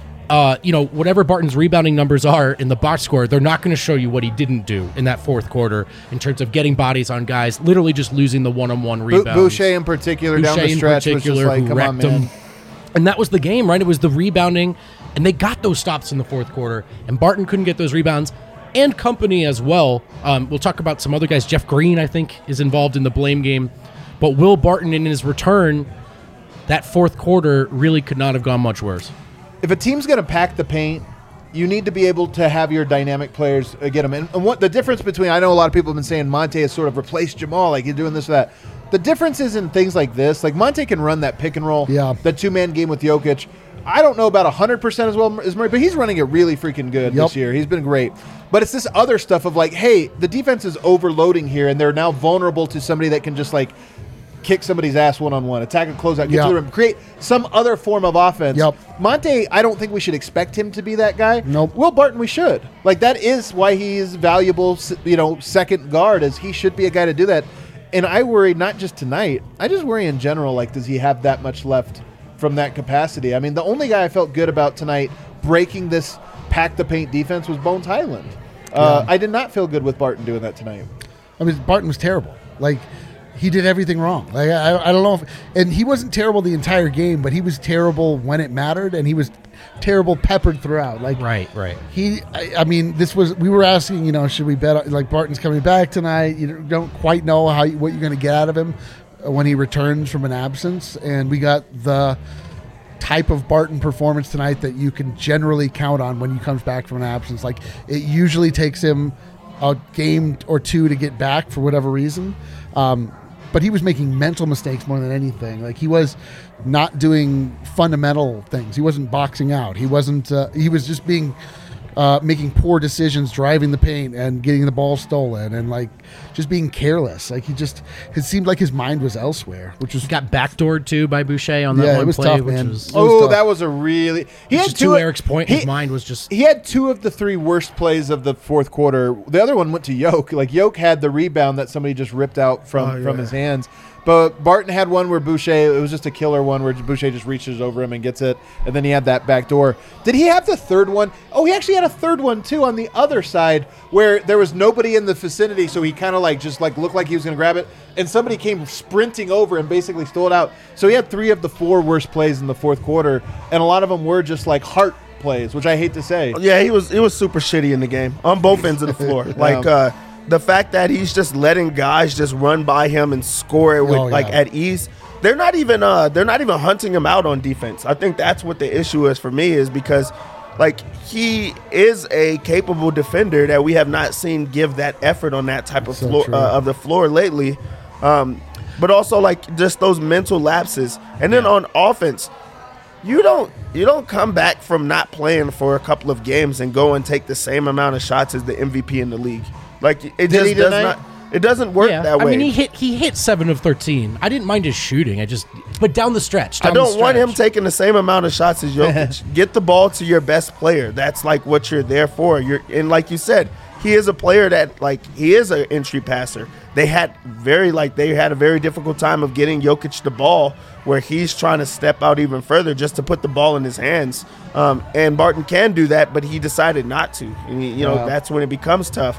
whatever Barton's rebounding numbers are in the box score, they're not going to show you what he didn't do in that fourth quarter in terms of getting bodies on guys, literally just losing the one-on-one rebounds. Boucher in particular down the stretch was just like, come on, man. And that was the game, right? It was the rebounding, and they got those stops in the fourth quarter, and Barton couldn't get those rebounds, and company as well. We'll talk about some other guys. Jeff Green, I think, is involved in the blame game. But Will Barton, in his return, that fourth quarter really could not have gone much worse. If a team's going to pack the paint, you need to be able to have your dynamic players get them. And what the difference between, I know a lot of people have been saying Monte has sort of replaced Jamal, like he's doing this or that. The difference is in things like this. Like Monte can run that pick and roll, the 2-man game with Jokic. I don't know about 100% as well as Murray, but he's running it really freaking good this year. He's been great. But it's this other stuff of like, hey, the defense is overloading here, and they're now vulnerable to somebody that can just like kick somebody's ass one-on-one, attack and close out, get to the rim, create some other form of offense. Monte, I don't think we should expect him to be that guy. Nope. Will Barton, we should. Like, that is why he's valuable, second guard, is he should be a guy to do that. And I worry not just tonight, I just worry in general, like, does he have that much left from that capacity? I mean, the only guy I felt good about tonight breaking this pack-the-paint defense was Bones Highland. I did not feel good with Barton doing that tonight. I mean, Barton was terrible. Like, he did everything wrong. Like I don't know and he wasn't terrible the entire game, but he was terrible when it mattered, and he was terrible peppered throughout. Like right. I mean, we were asking, should we bet like Barton's coming back tonight? You don't quite know what you're going to get out of him when he returns from an absence, and we got the type of Barton performance tonight that you can generally count on when he comes back from an absence. Like it usually takes him a game or two to get back for whatever reason. But he was making mental mistakes more than anything. Like he was not doing fundamental things. He wasn't boxing out. He wasn't. He was just making poor decisions, driving the paint and getting the ball stolen, and like just being careless. Like it seemed like his mind was elsewhere, which was he got backdoored too by Boucher on that one it was play. Tough, man. That was a really. He had to Eric's point. His mind was just. He had 2 of the 3 worst plays of the fourth quarter. The other one went to Yoke. Like Yoke had the rebound that somebody just ripped out from his hands. But Barton had one where Boucher, it was just a killer one where Boucher just reaches over him and gets it, and then he had that back door. Did he have the third one? Oh, he actually had a third one, too, on the other side where there was nobody in the vicinity, so he kind of looked like he was going to grab it, and somebody came sprinting over and basically stole it out. So he had 3 of the 4 worst plays in the fourth quarter, and a lot of them were just like heart plays, which I hate to say. Yeah, he was super shitty in the game on both ends of the floor. The fact that he's just letting guys just run by him and score it with at ease. They're not even hunting him out on defense. I think that's what the issue is for me, is because like he is a capable defender that we have not seen give that effort on that type of floor of the floor lately. But also like just those mental lapses. And then on offense, you don't come back from not playing for a couple of games and go and take the same amount of shots as the MVP in the league. Like it just does not. It doesn't work that way. I mean, he hit 7 of 13. I didn't mind his shooting. But down the stretch. I don't want him taking the same amount of shots as Jokic. Get the ball to your best player. That's like what you're there for. And like you said, he is a player that like he is an entry passer. They had a very difficult time of getting Jokic the ball, where he's trying to step out even further just to put the ball in his hands. And Barton can do that, but he decided not to. And that's when it becomes tough.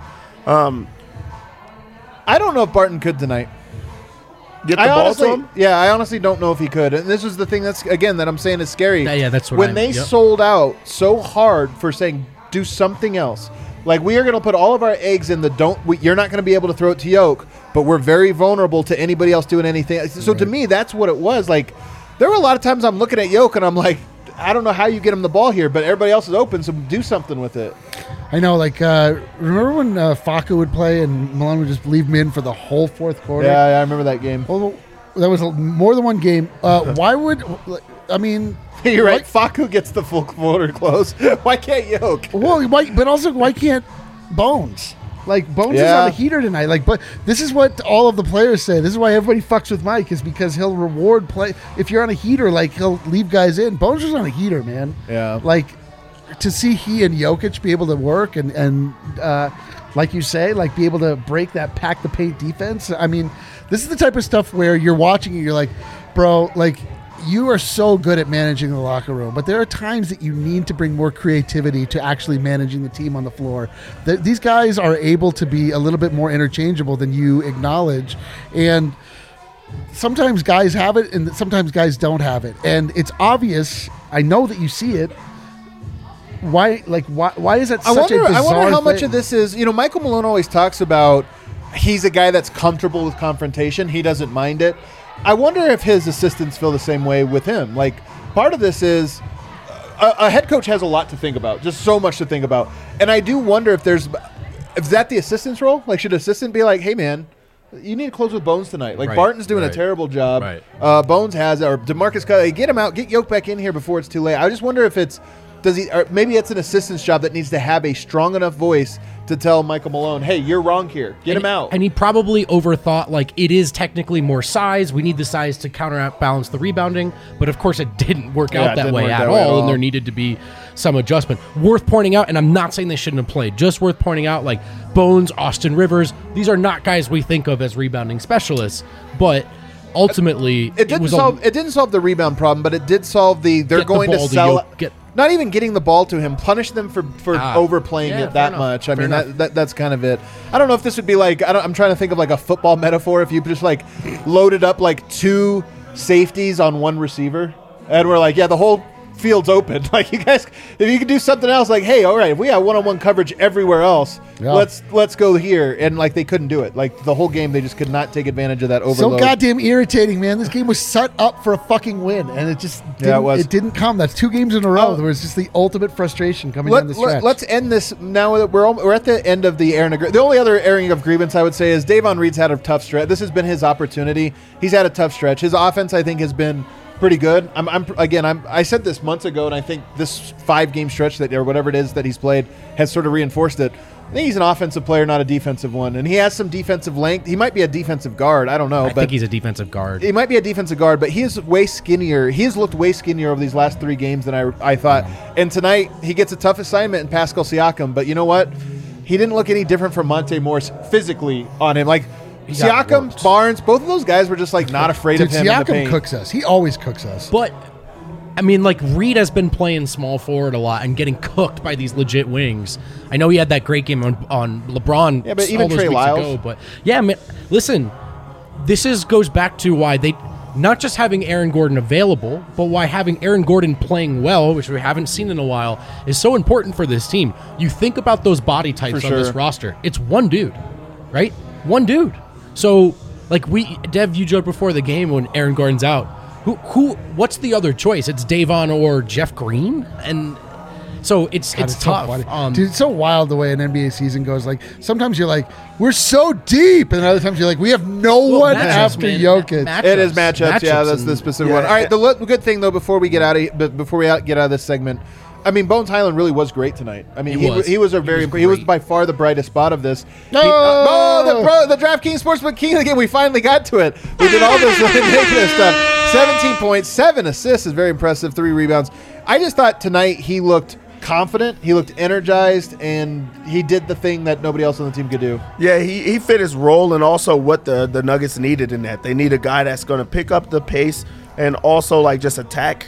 I don't know if Barton could tonight. Get the ball to him? Yeah, I honestly don't know if he could. And this is the thing that I'm saying is scary. Yeah, that's what when they sold out so hard for saying do something else. Like we are going to put all of our eggs in you're not going to be able to throw it to Yoke, but we're very vulnerable to anybody else doing anything. So to me, that's what it was. Like there were a lot of times I'm looking at Yoke and I'm like, I don't know how you get him the ball here, but everybody else is open, so do something with it. I know, remember when Facu would play and Malone would just leave him in for the whole fourth quarter? Yeah, I remember that game. Well, that was more than one game. Why would, I mean... You're right, Facu gets the full quarter close. Why can't Yoke? Well, why can't Bones? Like, Bones is on the heater tonight. Like, but this is what all of the players say. This is why everybody fucks with Mike, is because he'll reward play. If you're on a heater, like, he'll leave guys in. Bones was on a heater, man. Yeah. Like, to see he and Jokic be able to work and like you say, like, be able to break that pack the paint defense. I mean, this is the type of stuff where you're watching and you're like, bro, like, you are so good at managing the locker room, but there are times that you need to bring more creativity to actually managing the team on the floor. These guys are able to be a little bit more interchangeable than you acknowledge, and sometimes guys have it and sometimes guys don't have it, and it's obvious. I know that you see it. Why is that such a bizarre thing? I wonder how much of this is, Michael Malone always talks about he's a guy that's comfortable with confrontation. He doesn't mind it. I wonder if his assistants feel the same way with him. Like, part of this is a head coach has a lot to think about, just so much to think about. And I do wonder if is that the assistant's role? Like, should assistant be like, hey, man, you need to close with Bones tonight. Like, Barton's doing a terrible job. Right. Bones has, or DeMarcus Cousins, get him out, get Yoke back in here before it's too late. I just wonder if or maybe it's an assistant's job that needs to have a strong enough voice to tell Michael Malone, hey, you're wrong here. Get him out. And he probably overthought, like, it is technically more size. We need the size to counterbalance the rebounding. But, of course, it didn't work out that way at all, and there needed to be some adjustment. Worth pointing out, and I'm not saying they shouldn't have played, just worth pointing out, like, Bones, Austin Rivers, these are not guys we think of as rebounding specialists, but ultimately it didn't solve the rebound problem, but it did solve they're going to sell not even getting the ball to him, punish them for overplaying it that much. I mean, that's kind of it. I don't know if this would be like, I'm trying to think of like a football metaphor. If you just like loaded up like 2 safeties on 1 receiver, and we're like, yeah, the whole field's open. Like, you guys, if you could do something else, like, hey, all right, if we have one-on-one coverage everywhere else, let's go here. And like, they couldn't do it. Like, the whole game, they just could not take advantage of that overload. So goddamn irritating, man. This game was set up for a fucking win, and it just it didn't come. That's 2 games in a row. There was just the ultimate frustration coming down the stretch. Let's end this now that we're at the end of the airing of the only other airing of grievance I would say is Davon Reed's had a tough stretch. This has been his opportunity. He's had a tough stretch. His offense, I think, has been pretty good. I said this months ago, and I think this 5-game stretch or whatever it is that he's played has sort of reinforced it. I think he's an offensive player, not a defensive one, and he has some defensive length. He might be a defensive guard. I don't know. I think he's a defensive guard. He might be a defensive guard, but he is way skinnier. He has looked way skinnier over these last 3 games than I thought. And tonight he gets a tough assignment in Pascal Siakam. But you know what? He didn't look any different from Monte Morris physically on him. Like, Siakam, Barnes, both of those guys were just like not afraid of him. Siakam in the paint. cooks us. He always cooks us. But I mean, like, Reed has been playing small forward a lot and getting cooked by these legit wings. I know he had that great game on LeBron. Yeah, but even Trey Lyles. Ago, but yeah, man, listen, goes back to why they not just having Aaron Gordon available, but why having Aaron Gordon playing well, which we haven't seen in a while, is so important for this team. You think about those body types on this roster. It's one dude, right? One dude. So, like, Dev, you joked before the game when Aaron Gordon's out. What's the other choice? It's Davon or Jeff Green? And so it's tough. Dude, it's so wild the way an NBA season goes. Like, sometimes you're like, we're so deep. And other times you're like, we have no one after Jokic. It is matchups. Yeah, that's the specific one. All right, the good thing, though, before we get out of this segment, I mean, Bones Hyland really was great tonight. I mean, he was by far the brightest spot of this. The DraftKings Sportsbook King of the game. We finally got to it. We did all this negative stuff. 17 points, 7 assists is very impressive. 3 rebounds. I just thought tonight he looked confident. He looked energized, and he did the thing that nobody else on the team could do. Yeah, he fit his role, and also what the Nuggets needed in that. They need a guy that's going to pick up the pace and also like just attack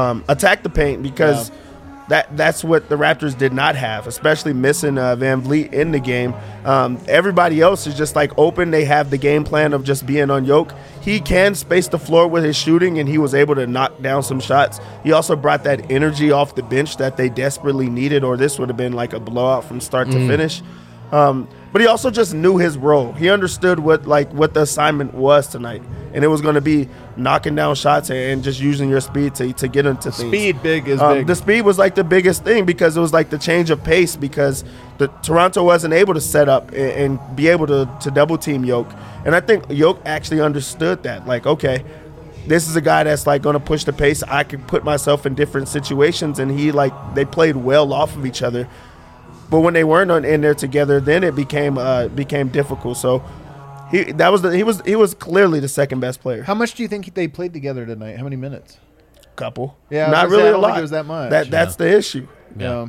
the paint because. Yeah. That's what the Raptors did not have, especially missing Van Vliet in the game. Everybody else is just like open. They have the game plan of just being on Yoke. He can space the floor with his shooting, and he was able to knock down some shots. He also brought that energy off the bench that they desperately needed, or this would have been like a blowout from start to finish. But he also just knew his role. He understood what the assignment was tonight, and it was going to be knocking down shots and just using your speed to get into things. Speed big. The speed was like the biggest thing because it was like the change of pace because Toronto wasn't able to set up and be able to double team Yoke. And I think Yoke actually understood that. Like, okay, this is a guy that's like going to push the pace. I can put myself in different situations, and they played well off of each other. But when they weren't in there together, then it became difficult. So he was clearly the second best player. How much do you think they played together tonight? How many minutes? Couple. Yeah, not really a lot. Think it was that much. That's the issue. Yeah.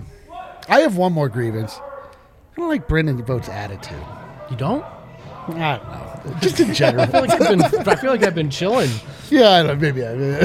I have one more grievance. I don't like Brendan Voigt's attitude. You don't? I don't know. Just in general. I feel like I've been chilling. Yeah, I don't know. Maybe.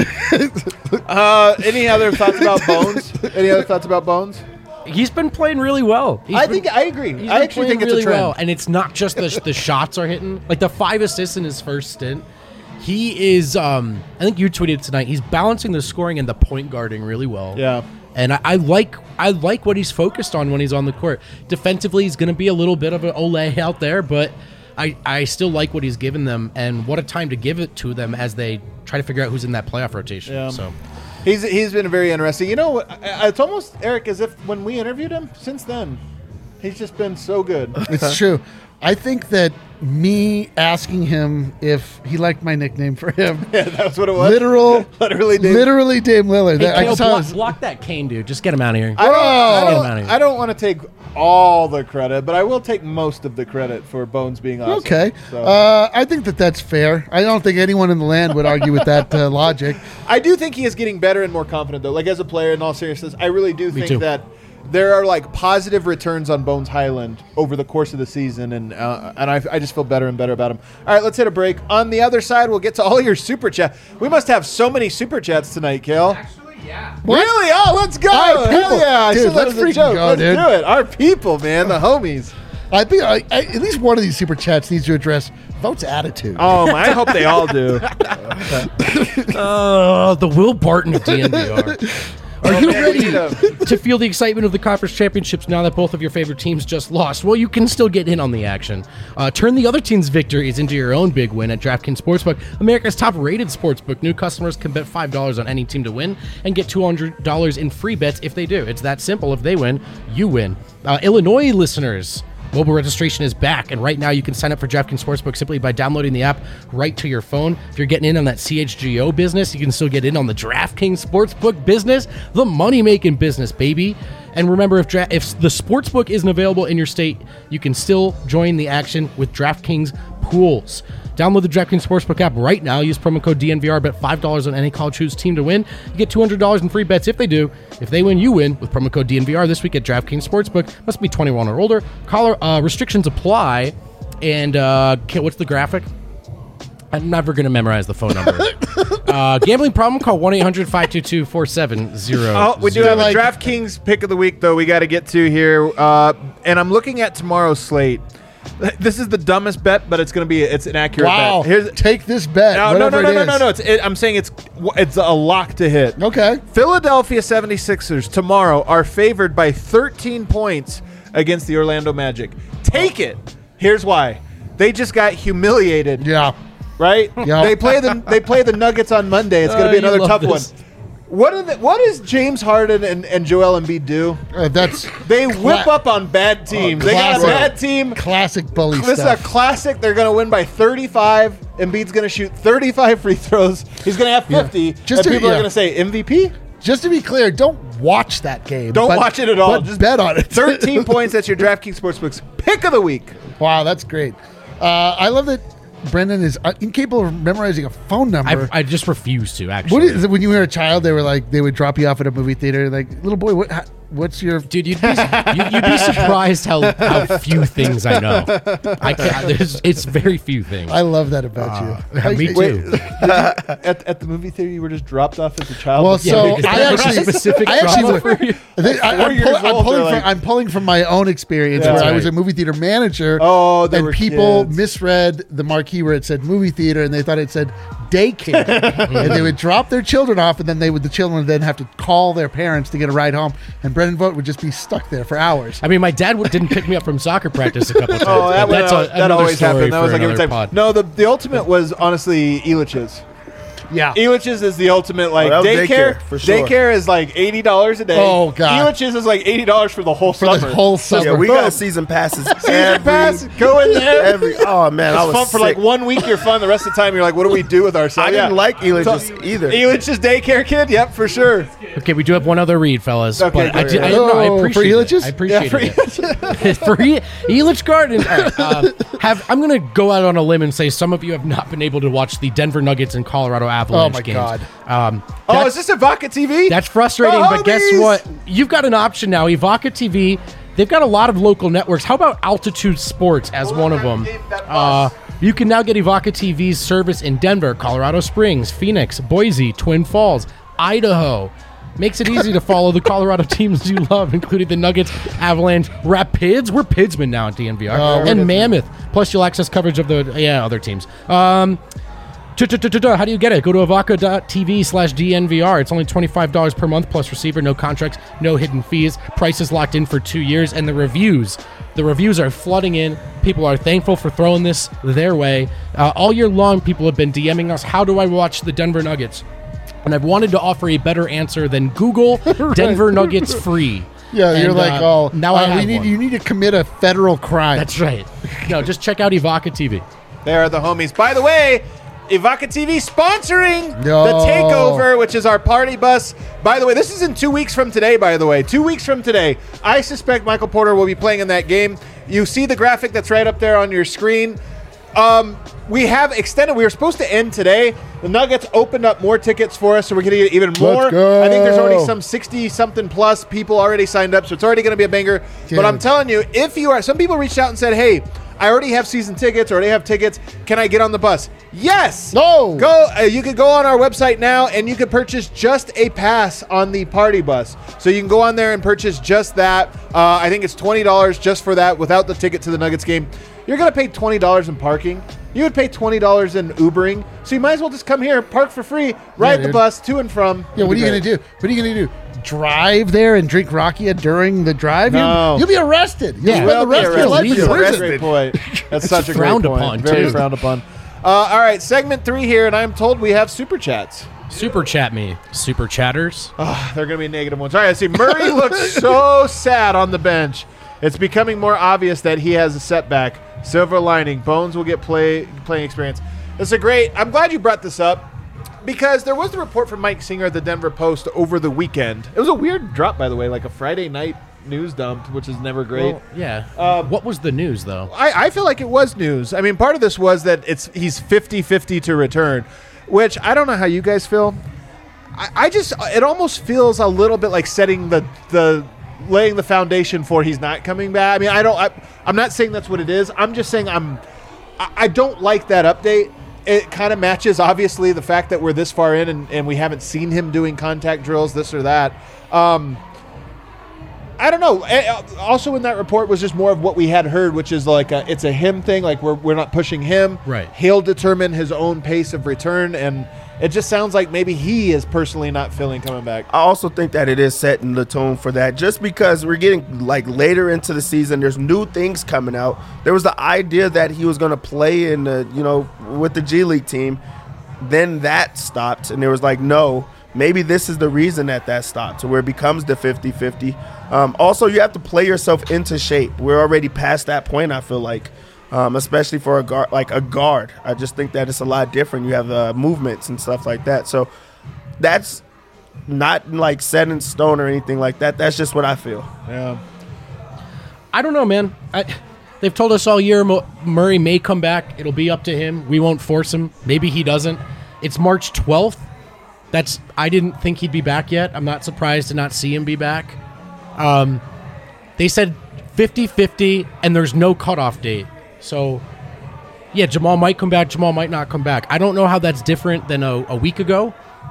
Any other thoughts about Bones? Any other thoughts about Bones? He's been playing really well. I agree. I actually think it's really a trend. well, and it's not just the shots are hitting. Like the 5 assists in his first stint. He is. I think you tweeted tonight. He's balancing the scoring and the point guarding really well. Yeah. And I like what he's focused on when he's on the court. Defensively, he's going to be a little bit of an Olay out there, but I still like what he's given them, and what a time to give it to them as they try to figure out who's in that playoff rotation. Yeah. So. He's been very interesting. You know, it's almost, Eric, as if when we interviewed him, since then, he's just been so good. It's true. I think that me asking him if he liked my nickname for him. Yeah, that's what it was. Literally Dame Lillard. Hey, block that Kane dude. Just get him out of here. I don't want to take all the credit, but I will take most of the credit for Bones being awesome. Okay. So. I think that's fair. I don't think anyone in the land would argue with that logic. I do think he is getting better and more confident, though. Like, as a player, in all seriousness, I really do think that there are like positive returns on Bones Hyland over the course of the season, and I just feel better and better about him. All right, let's hit a break. On the other side, we'll get to all your super chat. We must have so many super chats tonight, Kale. What? Really? Oh, let's go! All right, Hell people. yeah! I Dude, said that let's as a freaking joke. go, Let's dude. do it. Our people, man, the homies. I think at least one of these super chats needs to address Vote's attitude. Oh, I hope they all do. The Will Barton of DNVR. Are you ready to feel the excitement of the conference championships now that both of your favorite teams just lost? Well, you can still get in on the action. Turn the other team's victories into your own big win at DraftKings Sportsbook, America's top-rated sportsbook. New customers can bet $5 on any team to win and get $200 in free bets if they do. It's that simple. If they win, you win. Illinois listeners, mobile registration is back, and right now you can sign up for DraftKings Sportsbook simply by downloading the app right to your phone. If you're getting in on that CHGO business, you can still get in on the DraftKings Sportsbook business, the money-making business, baby. And remember, if the Sportsbook isn't available in your state, you can still join the action with DraftKings Pools. Download the DraftKings Sportsbook app right now. Use promo code DNVR. Bet $5 on any college hoops team to win. You get $200 in free bets if they do. If they win, you win with promo code DNVR this week at DraftKings Sportsbook. Must be 21 or older. Restrictions apply. And what's the graphic? I'm never going to memorize the phone number. Gambling problem? Call 1-800-522-4700. Oh, we do have a DraftKings pick of the week, though, we got to get to here. And I'm looking at tomorrow's slate. This is the dumbest bet, but it's an accurate wow. bet. Take this bet. No. I'm saying it's a lock to hit. Okay. Philadelphia 76ers tomorrow are favored by 13 points against the Orlando Magic. Take it. Here's why. They just got humiliated. Yeah. Right? Yeah. They play the Nuggets on Monday. It's going to be another tough one. What does James Harden and Joel Embiid do? They whip up on bad teams. They got a bad team. Classic bully This stuff. is a classic. They're going to win by 35. Embiid's going to shoot 35 free throws. He's going to have 50. Yeah. People are going to say MVP? Just to be clear, don't watch that game. Don't watch it at all. Just bet on it. 13 points. That's your DraftKings Sportsbook's pick of the week. Wow, that's great. I love that Brendan is incapable of memorizing a phone number. I just refuse to, actually. What is it, when you were a child, they would drop you off at a movie theater, like, little boy, what's your... Dude, you'd be surprised how few things I know. It's very few things. I love that about you. Me too. At the movie theater, you were just dropped off as a child? Well, so I'm pulling from my own experience where I was a movie theater manager. Oh, there and were people kids. misread the marquee where it said movie theater, and they thought it said daycare. And they would drop their children off, and then the children would then have to call their parents to get a ride home. And Brendan Vogt would just be stuck there for hours. I mean, my dad didn't pick me up from soccer practice a couple times. Oh, that always happened. That was like every time. Pod. No, the ultimate was honestly Elitch's. Yeah. Elitch's is the ultimate, like, daycare, for sure. Daycare is like $80 a day. Oh, God. Elitch's is like $80 for the whole For summer. the whole summer. Yeah, we got season passes. Season pass, go in there. Oh man, I It's was fun for like 1 week. You're fun. The rest of the time, you're like, what do we do with ourselves? I didn't like Elitch's either. Elitch's daycare kid. Yep, for sure. Okay, we do have one other read, fellas. Okay, but go ahead. I appreciate for Elitch's? it. I appreciate Yeah, it. For Elitch Garden. All right, I'm going to go out on a limb and say some of you have not been able to watch the Denver Nuggets and Colorado Avalanche Oh, my games. God. Is this Ivaca TV? That's frustrating, The but guess homies! what? You've got an option now. Ivaca TV, they've got a lot of local networks. How about Altitude Sports as one of them? You can now get Ivaca TV's service in Denver, Colorado Springs, Phoenix, Boise, Twin Falls, Idaho. Makes it easy to follow the Colorado teams you love, including the Nuggets, Avalanche, Rapids. We're Pidsman now at DNVR. And Mammoth. Plus, you'll access coverage of the other teams. How do you get it? Go to avaca.tv/DNVR. It's only $25 per month plus receiver, no contracts, no hidden fees. Price is locked in for 2 years. And the reviews are flooding in. People are thankful for throwing this their way. All year long, people have been DMing us, how do I watch the Denver Nuggets? And I've wanted to offer a better answer than Google Denver Nuggets free. Yeah, and, you're like, now I have one. you need to commit a federal crime. That's right. No, just check out Ivaca TV. They are the homies. By the way, Ivaca TV sponsoring No. the Takeover, which is our party bus. By the way, this is in 2 weeks from today, by the way. 2 weeks from today. I suspect Michael Porter will be playing in that game. You see the graphic that's right up there on your screen. We have extended. We were supposed to end today. The Nuggets opened up more tickets for us, so we're going to get even more. Let's go. I think there's already some 60-something plus people already signed up, so it's already going to be a banger. Dude. But I'm telling you, if you are, some people reached out and said, hey, I already have season tickets, already have tickets. Can I get on the bus? Yes. No. Go. You could go on our website now, and you could purchase just a pass on the party bus. So you can go on there and purchase just that. I think it's $20 just for that without the ticket to the Nuggets game. You're going to pay $20 in parking. You would pay $20 in Ubering. So you might as well just come here, park for free, ride the bus to and from. Yeah, what are you going to do? What are you going to do? Drive there and drink Rakia during the drive? No. You'll be arrested. You'll spend the rest of your life in That's prison. a great point. That's such a great frowned point. upon, Very too. frowned upon. All right, segment 3 here, and I'm told we have super chats. Super chat me. Super chatters. They're going to be negative ones. All right, I see Murray looks so sad on the bench. It's becoming more obvious that he has a setback. Silver lining. Bones will get playing experience. I'm glad you brought this up because there was the report from Mike Singer at the Denver Post over the weekend. It was a weird drop, by the way, like a Friday night news dump, which is never great. Well, yeah. What was the news, though? I feel like it was news. I mean, part of this was that he's 50-50 to return, which I don't know how you guys feel. It almost feels a little bit like setting laying the foundation for he's not coming back. I mean, I'm not saying that's what it is. I'm just saying I don't like that update. It kind of matches, obviously, the fact that we're this far in and we haven't seen him doing contact drills, this or that. I don't know. Also in that report was just more of what we had heard, which is like it's a him thing. Like we're not pushing him. Right. He'll determine his own pace of return, and it just sounds like maybe he is personally not feeling coming back. I also think that it is setting the tone for that just because we're getting like later into the season. There's new things coming out. There was the idea that he was going to play in with the G League team. Then that stopped, and there was like, no, maybe this is the reason that stopped, to where it becomes the 50-50. Also, you have to play yourself into shape. We're already past that point, I feel like, especially for a guard. I just think that it's a lot different. You have movements and stuff like that. So that's not like set in stone or anything like that. That's just what I feel. Yeah. I don't know, man. They've told us all year Murray may come back. It'll be up to him. We won't force him. Maybe he doesn't. It's March 12th. I didn't think he'd be back yet. I'm not surprised to not see him be back. They said 50-50, and there's no cutoff date. So, yeah, Jamal might come back. Jamal might not come back. I don't know how that's different than a week ago.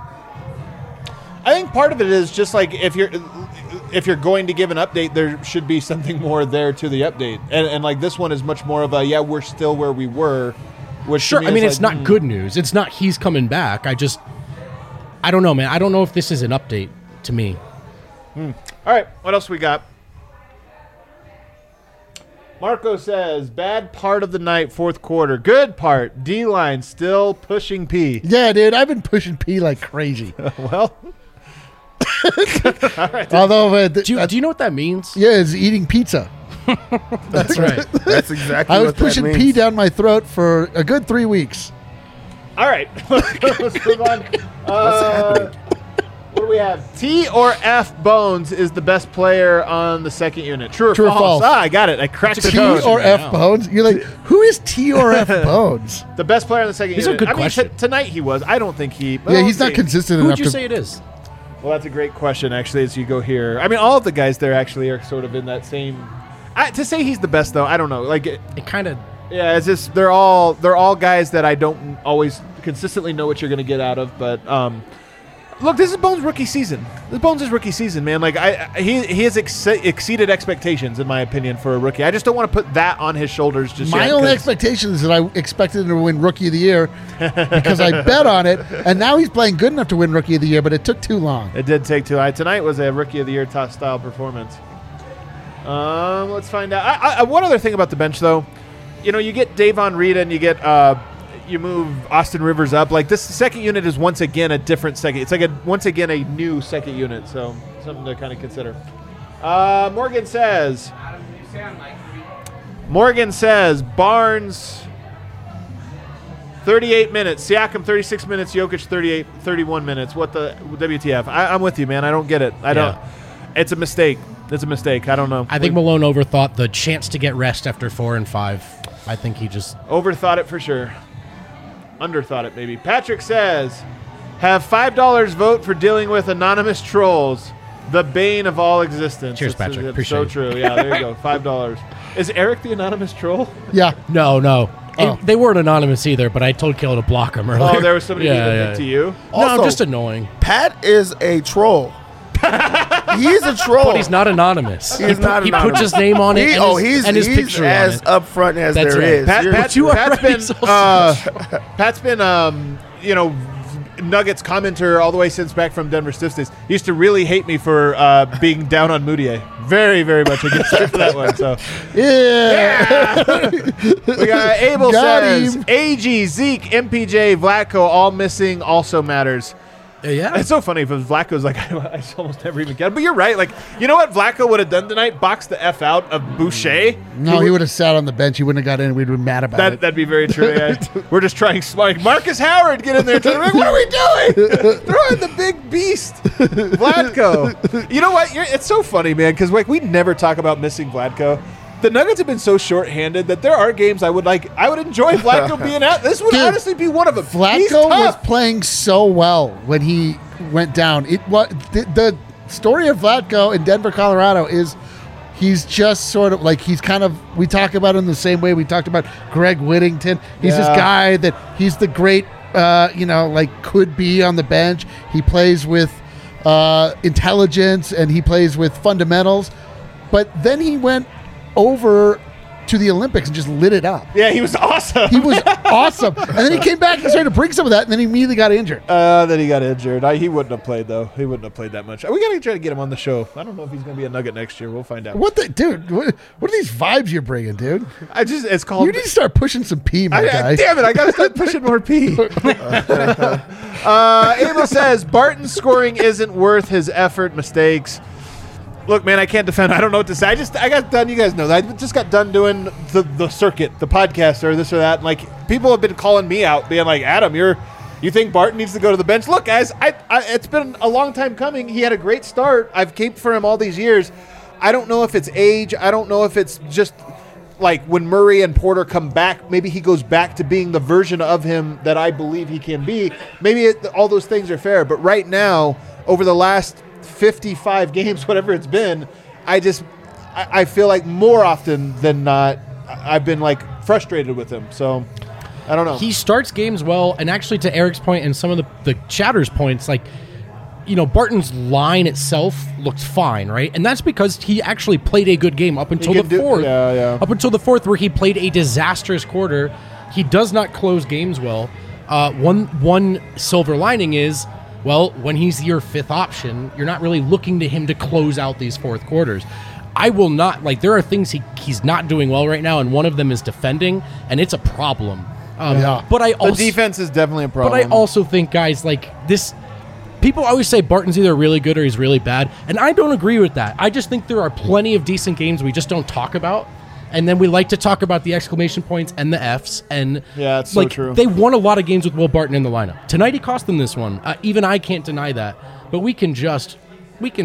I think part of it is just like if you're going to give an update, there should be something more there to the update. And like this one is much more of we're still where we were. Which Sure, I mean, it's like, not good news. It's not he's coming back. I don't know, man. I don't know if this is an update to me. All right, what else we got? Marco says, bad part of the night, fourth quarter. Good part, D-line still pushing P. Yeah, dude, I've been pushing P like crazy. Well. All right. Although, Do you know what that means? yeah, it's eating pizza. That's right. That's exactly I was what pushing that P means. down my throat for a good 3 weeks. All right, let's move on. What's happening? What do we have? T or F Bones is the best player on the second unit. True or false? Ah, I got it. I cracked the T code. or right F now. Bones? You're like, who is T or F Bones? The best player on the second These are unit. good I mean, questions. tonight he was. I don't think he. Yeah, he's not consistent Who enough would you to. say it is? Well, that's a great question, actually, as you go here. I mean, all of the guys there actually are sort of in that same. To say he's the best, though, I don't know. Like, It kind of... yeah, it's just they're all guys that I don't always consistently know what you're going to get out of. But look, this is Bones' rookie season. This is Bones' rookie season, man. Like he has exceeded expectations in my opinion for a rookie. I just don't want to put that on his shoulders just My yet. only 'Cause expectation is that I expected him to win Rookie of the Year because I bet on it, and now he's playing good enough to win Rookie of the Year, but it took too long. It did take too. Tonight was a rookie of the year top style performance. Let's find out. One other thing about the bench, though, you get Davon Reed and you get you move Austin Rivers up. Like this second unit is once again a different second. It's like once again a new second unit. So something to kind of consider. Morgan says. Barnes. 38 minutes. Siakam 36 minutes. Jokic 31 minutes. What the WTF? I'm with you, man. I don't get it. I don't. It's a mistake. It's a mistake. I don't know. I think Malone overthought the chance to get rest after 4 and 5. I think he just... Overthought it for sure. Underthought it, maybe. Patrick says, have $5 vote for dealing with anonymous trolls. The bane of all existence. Cheers, Patrick. It's Appreciate so it. true. Yeah, there you go. $5. Is Eric the anonymous troll? Yeah. No. Oh. They weren't anonymous either, but I told Kale to block him earlier. Oh, there was somebody doing it to you? No, I'm Also, just annoying. Pat is a troll. He's a troll. But he's not anonymous. He's not He anonymous. puts his name on it and his he's picture as on it. upfront as That's there right. is. Pat's been, Nuggets commenter all the way since back from Denver Stiffs days. He used to really hate me for being down on Moutier. Very, very much against him for that one. So Yeah. we got Abel Got says him. AG, Zeke, MPJ, Vlatko all missing also matters. Yeah. It's so funny if Vlatko's like, I almost never even get him. But you're right. Like, you know what Vlatko would have done tonight? Boxed the F out of Boucher. No, he would have sat on the bench. He wouldn't have got in. We'd been mad about it. That'd be very true. Yeah. We're just trying like Marcus Howard get in there. Like, what are we doing? Throw in the big beast, Vlatko. You know what? It's so funny, man, because like we never talk about missing Vlatko. The Nuggets have been so shorthanded that there are games I would enjoy Vlatko being out. This would honestly be one of them. He's Vlatko was tough. playing so well when he went down. It was the story of Vlatko in Denver, Colorado is he's just sort of like we talk about him the same way we talked about Greg Whittington. He's this guy that he's the great could be on the bench. He plays with intelligence and he plays with fundamentals. But then he went over to the Olympics and just lit it up. Yeah, he was awesome. He was awesome. And then he came back and started to bring some of that, and then he immediately got injured. Then he got injured. He wouldn't have played, though. He wouldn't have played that much. We got to try to get him on the show. I don't know if he's going to be a Nugget next year. We'll find out. What are these vibes you're bringing, dude? It's called... You need to start pushing some pee, my guy. Damn it, I got to start pushing more pee. Abel says, Barton's scoring isn't worth his effort, mistakes. Look, man, I can't defend. I don't know what to say. I got done. You guys know that. I just got done doing the circuit, the podcast, or this or that. And like people have been calling me out, being like, Adam, you think Barton needs to go to the bench? Look, guys, it's been a long time coming. He had a great start. I've caped for him all these years. I don't know if it's age. I don't know if it's just like when Murray and Porter come back, maybe he goes back to being the version of him that I believe he can be. Maybe all those things are fair. But right now, over the last 55 games, whatever it's been, I feel like more often than not, I've been like frustrated with him. So I don't know. He starts games well, and actually to Eric's point and some of the chatter's points, like, Barton's line itself looked fine, right? And that's because he actually played a good game up until the fourth. Yeah. Up until the fourth, where he played a disastrous quarter. He does not close games well. One silver lining is, well, when he's your fifth option, you're not really looking to him to close out these fourth quarters. I will not, there are things he's not doing well right now, and one of them is defending, and it's a problem. But the defense is definitely a problem. But I also think, guys, people always say Barton's either really good or he's really bad, and I don't agree with that. I just think there are plenty of decent games we just don't talk about. And then we like to talk about the exclamation points and the Fs. And yeah, it's so true. They won a lot of games with Will Barton in the lineup. Tonight he cost them this one. Even I can't deny that. But we can just wait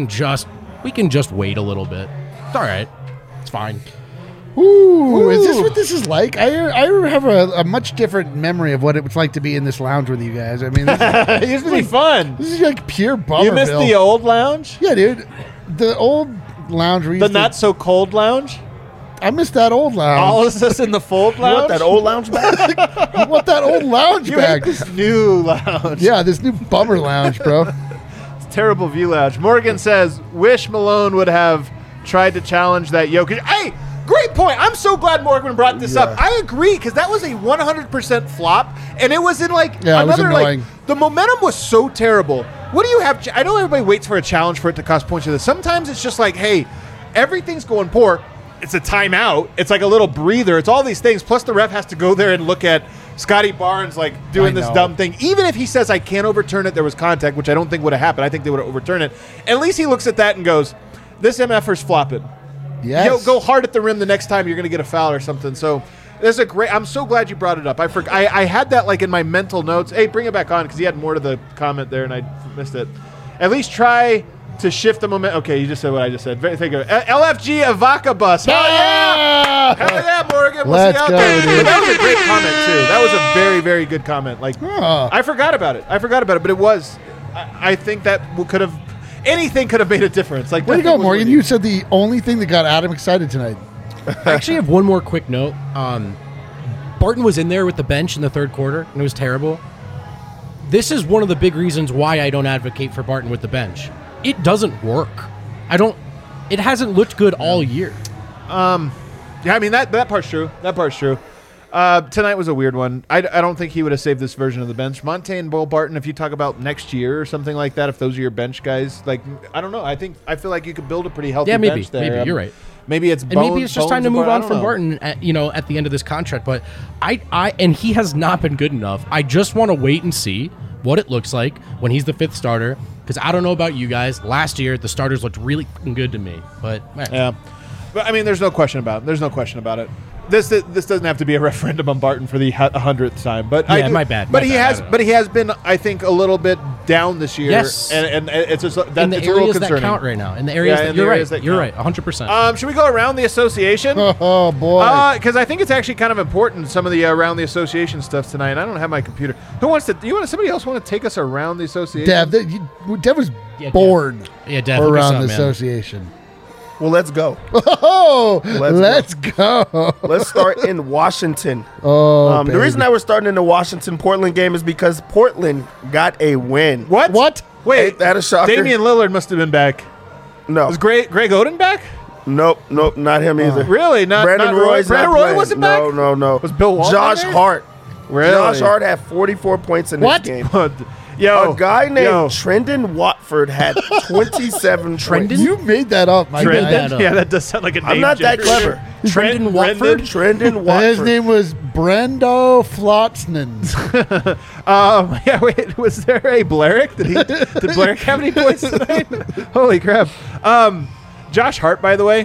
a little bit. It's all right. It's fine. Ooh, is this what this is like? I have a much different memory of what it was like to be in this lounge with you guys. I mean, it used to be fun. This is like pure bummer. You missed the old lounge? Yeah, dude. The old lounge. The not so cold lounge? I missed that old lounge. All of us in the fold lounge? You want that old lounge back? You want that old lounge back? This new lounge. Yeah, this new bummer lounge, bro. It's a terrible view lounge. Morgan says, wish Malone would have tried to challenge that Jokic. Hey, great point. I'm so glad Morgan brought this up. I agree, because that was a 100% flop, and it was in another, the momentum was so terrible. What do you have? I know everybody waits for a challenge for it to cost points. Sometimes it's just like, hey, everything's going poor. It's a timeout. It's like a little breather. It's all these things. Plus the ref has to go there and look at Scotty Barnes doing this dumb thing. Even if he says, I can't overturn it, there was contact, which I don't think would have happened. I think they would have overturned it. At least he looks at that and goes, this MFer's flopping. Yes. Go hard at the rim the next time you're going to get a foul or something. So this is I'm so glad you brought it up. I had that in my mental notes. Hey, bring it back on, because he had more to the comment there and I missed it. At least try to shift the momentum. Okay, you just said what I just said. Thank you. LFG Avaca bus. Hell yeah! Hell yeah, Morgan. Let's go, dude. That was a great comment, too. That was a very, very good comment. I forgot about it. But it was. I think that could have. Anything could have made a difference. Way to go, Morgan. You said the only thing that got Adam excited tonight. I actually have one more quick note. Barton was in there with the bench in the third quarter, and it was terrible. This is one of the big reasons why I don't advocate for Barton with the bench. It doesn't work. It hasn't looked good all year. Yeah, I mean, that part's true. That part's true. Tonight was a weird one. I don't think he would have saved this version of the bench. Monte and Will Barton, if you talk about next year or something like that, if those are your bench guys, like, I don't know. I feel like you could build a pretty healthy bench there. Maybe you're right. Maybe it's maybe it's just time to move on from Barton at the end of this contract. But and he has not been good enough. I just want to wait and see what it looks like when he's the fifth starter. Because I don't know about you guys. Last year, the starters looked really fucking good to me. But man. Yeah. But, I mean, there's no question about it. This doesn't have to be a referendum on Barton for the 100th time, but yeah, my bad. But he has been, I think, a little bit down this year. Yes, and it's just in the it's areas a little that count right now. In the areas that you're right, 100%. Should we go around the association? Oh boy, because I think it's actually kind of important. Some of the around the association stuff tonight. I don't have my computer. Who wants to? Somebody else want to take us around the association? Dev was bored. Yeah, Dev, around the association. Well, let's go. Oh, let's go. Let's start in Washington. Oh, the reason that we're starting in the Washington-Portland game is because Portland got a win. What? Wait, ain't that a shocker? Damian Lillard must have been back. No. Was Greg Oden back? Nope, not him either. Really? Brandon Roy wasn't back? No. Was Bill Walton Josh there? Hart. Really? Josh Hart had 44 points in this game. Yo, a guy named Trendon Watford had 27 Trendon? You made that up, my guy. Yeah, that does sound like a name. I'm not that clever. Trendon Watford? Trendon Watford. His name was Brendo Flotsman. Yeah, wait, was there a Blarick? Did Blarick have any points tonight? Holy crap. Josh Hart, by the way.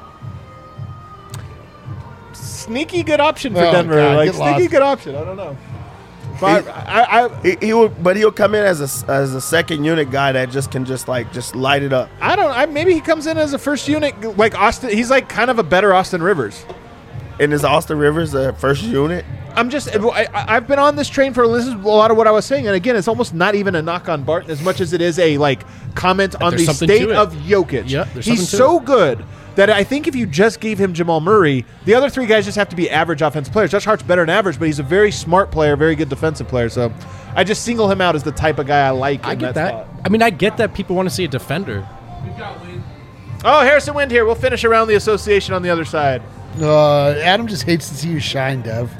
Sneaky good option for Denver. God, sneaky good option. I don't know. But he'll come in as a second unit guy that can light it up. Maybe he comes in as a first unit like Austin. He's like kind of a better Austin Rivers. And is Austin Rivers a first unit? I've been on this train this is a lot of what I was saying, and again, it's almost not even a knock on Barton as much as it is a comment on the state of Jokic. Yeah, he's so good that I think if you just gave him Jamal Murray, the other three guys just have to be average offensive players. Josh Hart's better than average, but he's a very smart player, very good defensive player. So I just single him out as the type of guy I like. I get that. Spot. I mean, I get that people want to see a defender. Oh, Harrison Wind here. We'll finish around the association on the other side. Adam just hates to see you shine, Dev.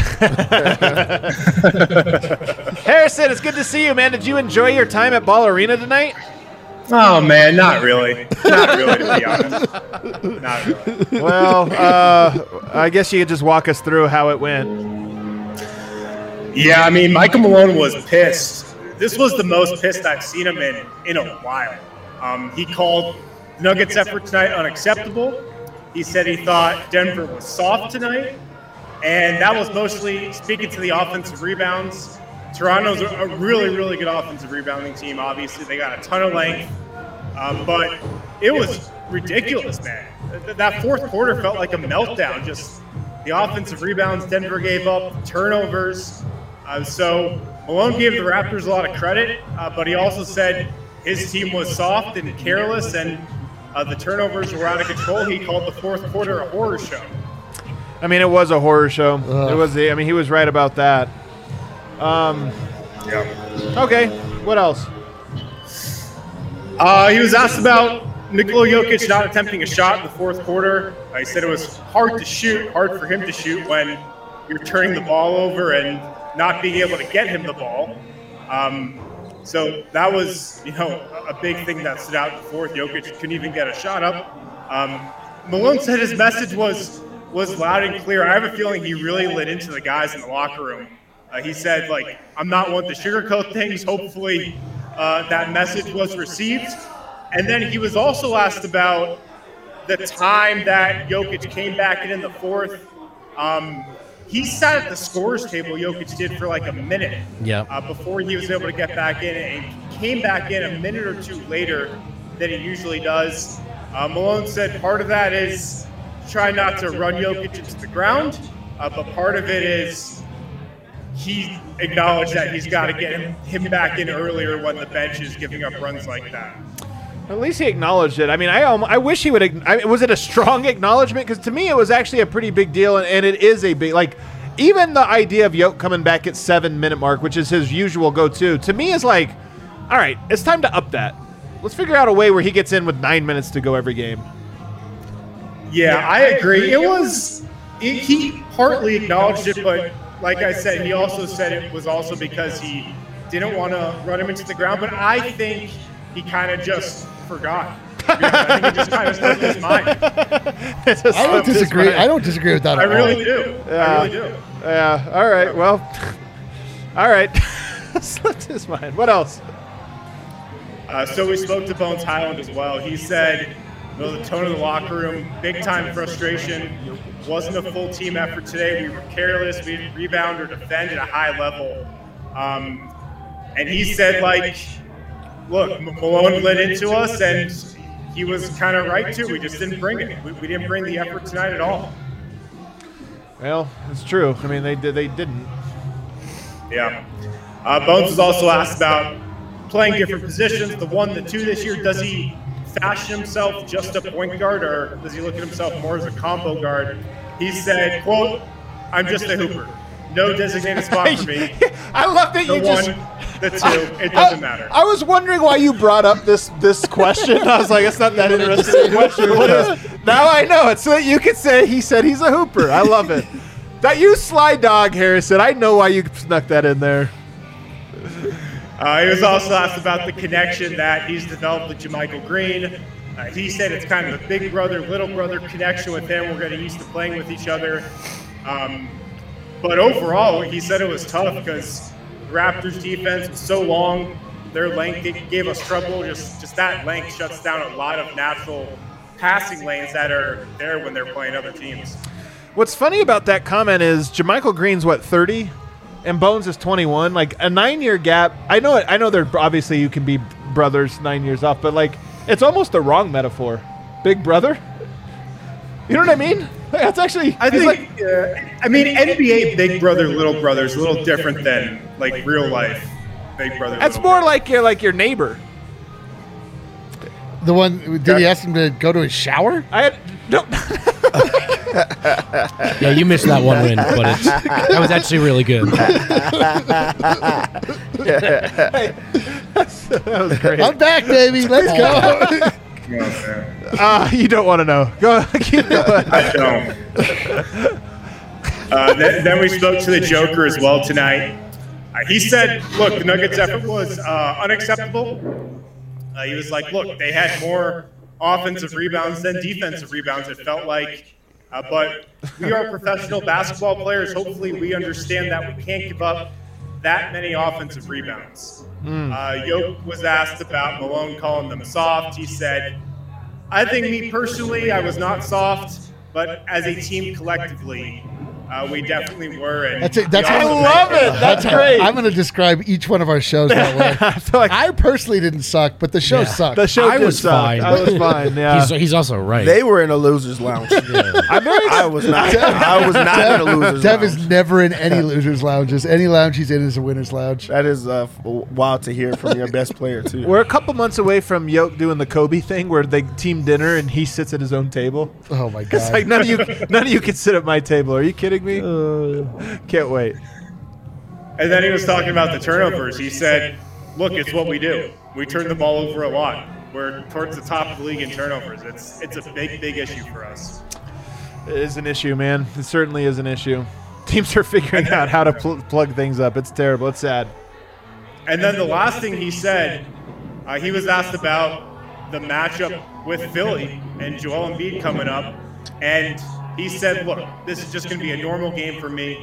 Harrison, it's good to see you, man. Did you enjoy your time at Ball Arena tonight? Oh, man, not really. Not really, to be honest. Not really. Well, I guess you could just walk us through how it went. Yeah, I mean, Michael Malone was pissed. This was the most pissed I've seen him in a while. He called Nuggets' effort tonight unacceptable. He said he thought Denver was soft tonight, and that was mostly speaking to the offensive rebounds. Toronto's a really, really good offensive rebounding team. Obviously, they got a ton of length, but it was ridiculous, man. That fourth quarter felt like a meltdown. Just the offensive rebounds Denver gave up, turnovers. So Malone gave the Raptors a lot of credit, but he also said his team was soft and careless, and the turnovers were out of control. He called the fourth quarter a horror show. I mean, it was a horror show. It was. I mean, he was right about that. Yeah. Okay. What else? He was asked about Nikola Jokic not attempting a shot in the fourth quarter. He said it was hard for him to shoot when you're turning the ball over and not being able to get him the ball. So that was, a big thing that stood out in the fourth. Jokic couldn't even get a shot up. Malone said his message was loud and clear. I have a feeling he really lit into the guys in the locker room. He said, I'm not one to sugarcoat things. Hopefully that message was received. And then he was also asked about the time that Jokic came back in the fourth. He sat at the scorer's table, Jokic did, for a minute before he was able to get back in. And he came back in a minute or two later than he usually does. Malone said part of that is try not to run Jokic into the ground, but part of it is he acknowledged that he's got to get him back in earlier when the bench is giving up runs like that. At least he acknowledged it. I mean, I wish he would. Was it a strong acknowledgement? Because to me, it was actually a pretty big deal, and it is a big, like, even the idea of Yoke coming back at 7-minute mark, which is his usual go-to, to me is like, all right, it's time to up that. Let's figure out a way where he gets in with 9 minutes to go every game. Yeah, I agree. He partly acknowledged it, but like I said, he also said it was also because he didn't want to run him into the ground. But I think he kind of just forgot. I think it just kind of slipped his mind. I don't disagree. I don't disagree with that at all. I really do. Yeah. All right. Well. All right. Slipped his mind. What else? So we spoke to Bones Hyland as well. He said, the tone of the locker room, big time frustration. Wasn't a full team effort today. We were careless. We didn't rebound or defend at a high level. And he said, like, look, Malone lit into us, and he was kind of right, too. We just didn't bring it. We didn't bring the effort tonight at all. Well, it's true. I mean, they didn't. Yeah. Bones was also asked about playing different positions, the 1, the 2 this year. Does he fashion himself just a point guard, or does he look at himself more as a combo guard? He said, quote, I'm just a hooper. No designated spot for me. I love that you just... 1, the 2, it doesn't matter. I was wondering why you brought up this question. I was like, it's not that interesting a question. What is? Now I know it. So that you could say he said he's a hooper. I love it. That you sly dog, Harrison. I know why you snuck that in there. He was also asked about the connection that he's developed with JaMychal Green. He said it's kind of a big brother, little brother connection with him. We're getting used to playing with each other. But overall, he said it was tough because the Raptors' defense was so long. Their length gave us trouble. Just that length shuts down a lot of natural passing lanes that are there when they're playing other teams. What's funny about that comment is JaMychal Green's, 30? And Bones is 21. Like, a 9-year gap. I know they're obviously you can be brothers 9 years off, but, like, it's almost the wrong metaphor. Big brother? You know what I mean? That's actually... I think, NBA big brother, little brother is a little different than, like, real life big brother. That's more like your neighbor. The one, did he ask him to go to his shower? No. Yeah, you missed that one win, but that was actually really good. Hey, that was great. I'm back, baby. Let's go. You don't want to know. Go. Keep going. I don't. Then we spoke to the Joker as well tonight. He said, look, the Nuggets' effort was unacceptable. He was like, look, they had more offensive rebounds than defensive rebounds, it felt like. But we are professional basketball players. Hopefully we understand that we can't give up that many offensive rebounds. Yoke was asked about Malone calling them soft. He said, I think me personally, I was not soft, but as a team collectively, we definitely were. And I love it. That's great. I'm going to describe each one of our shows that way. I personally didn't suck, but the show sucked. The show was fine. I was fine. Yeah. He's also right. They were in a loser's lounge. I was not. I was not in a loser's Dev lounge. is never in any loser's lounges. Any lounge he's in is a winner's lounge. That is wild to hear from your best player too. We're a couple months away from Yoke doing the Kobe thing, where they team dinner and he sits at his own table. Oh my god! It's like none of you can sit at my table. Are you kidding me? Can't wait. And then he was talking about the turnovers. He said, look, it's what we do. We turn the ball over a lot. We're towards the top of the league in turnovers. It's a big, big issue for us. It is an issue, man. It certainly is an issue. Teams are figuring out how to plug things up. It's terrible. It's sad. And then the last thing he said, he was asked about the matchup with Philly and Joel Embiid coming up. And he said, look, this is just going to be a normal game for me.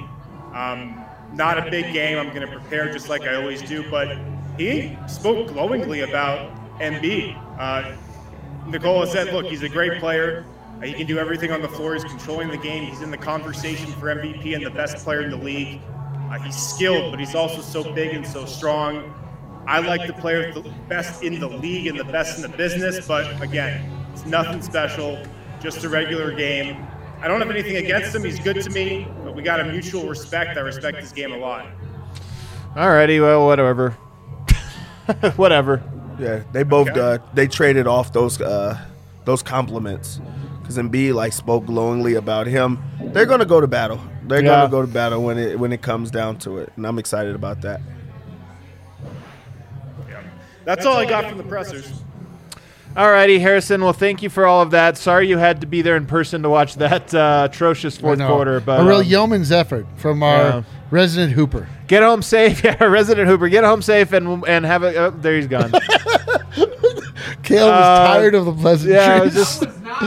Not a big game. I'm going to prepare just like I always do. But he spoke glowingly about Embiid. Nikola said, look, he's a great player. He can do everything on the floor. He's controlling the game. He's in the conversation for MVP and the best player in the league. He's skilled, but he's also so big and so strong. I like the player the best in the league and the best in the business. But again, it's nothing special, just a regular game. I don't have anything against him. He's good to me, but we got a mutual respect. I respect his game a lot. Alrighty, well, whatever. Whatever. Yeah, they both they traded off those compliments because Embiid spoke glowingly about him. They're gonna go to battle. They're gonna go to battle when it comes down to it, and I'm excited about that. Yeah. That's all I got from the pressers. All righty, Harrison. Well, thank you for all of that. Sorry you had to be there in person to watch that atrocious fourth quarter. But a real yeoman's effort from our resident Hooper. Get home safe. Yeah, resident Hooper. Get home safe and have a... Oh, there he's gone. Caleb was tired of the pleasant dreams.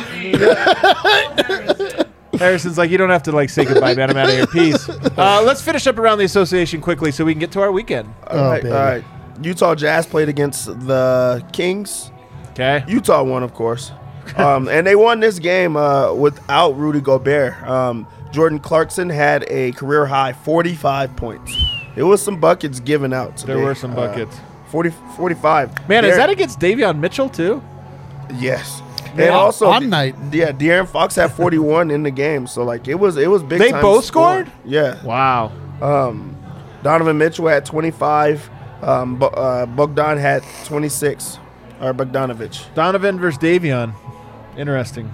Harrison's like, you don't have to say goodbye, man. I'm out of here. Peace. Let's finish up around the association quickly so we can get to our weekend. All right. Utah Jazz played against the Kings. Okay. Utah won, of course. And they won this game without Rudy Gobert. Jordan Clarkson had a career-high 45 points. It was some buckets given out today. There were some buckets. 45. Man, is that against Davion Mitchell, too? Yes. And also, on night. Yeah, De'Aaron Fox had 41 in the game. So, it was big They time both scoring. scored? Yeah. Wow. Donovan Mitchell had 25. Bogdan had 26. Or Bogdanovich. Donovan versus Davion. Interesting.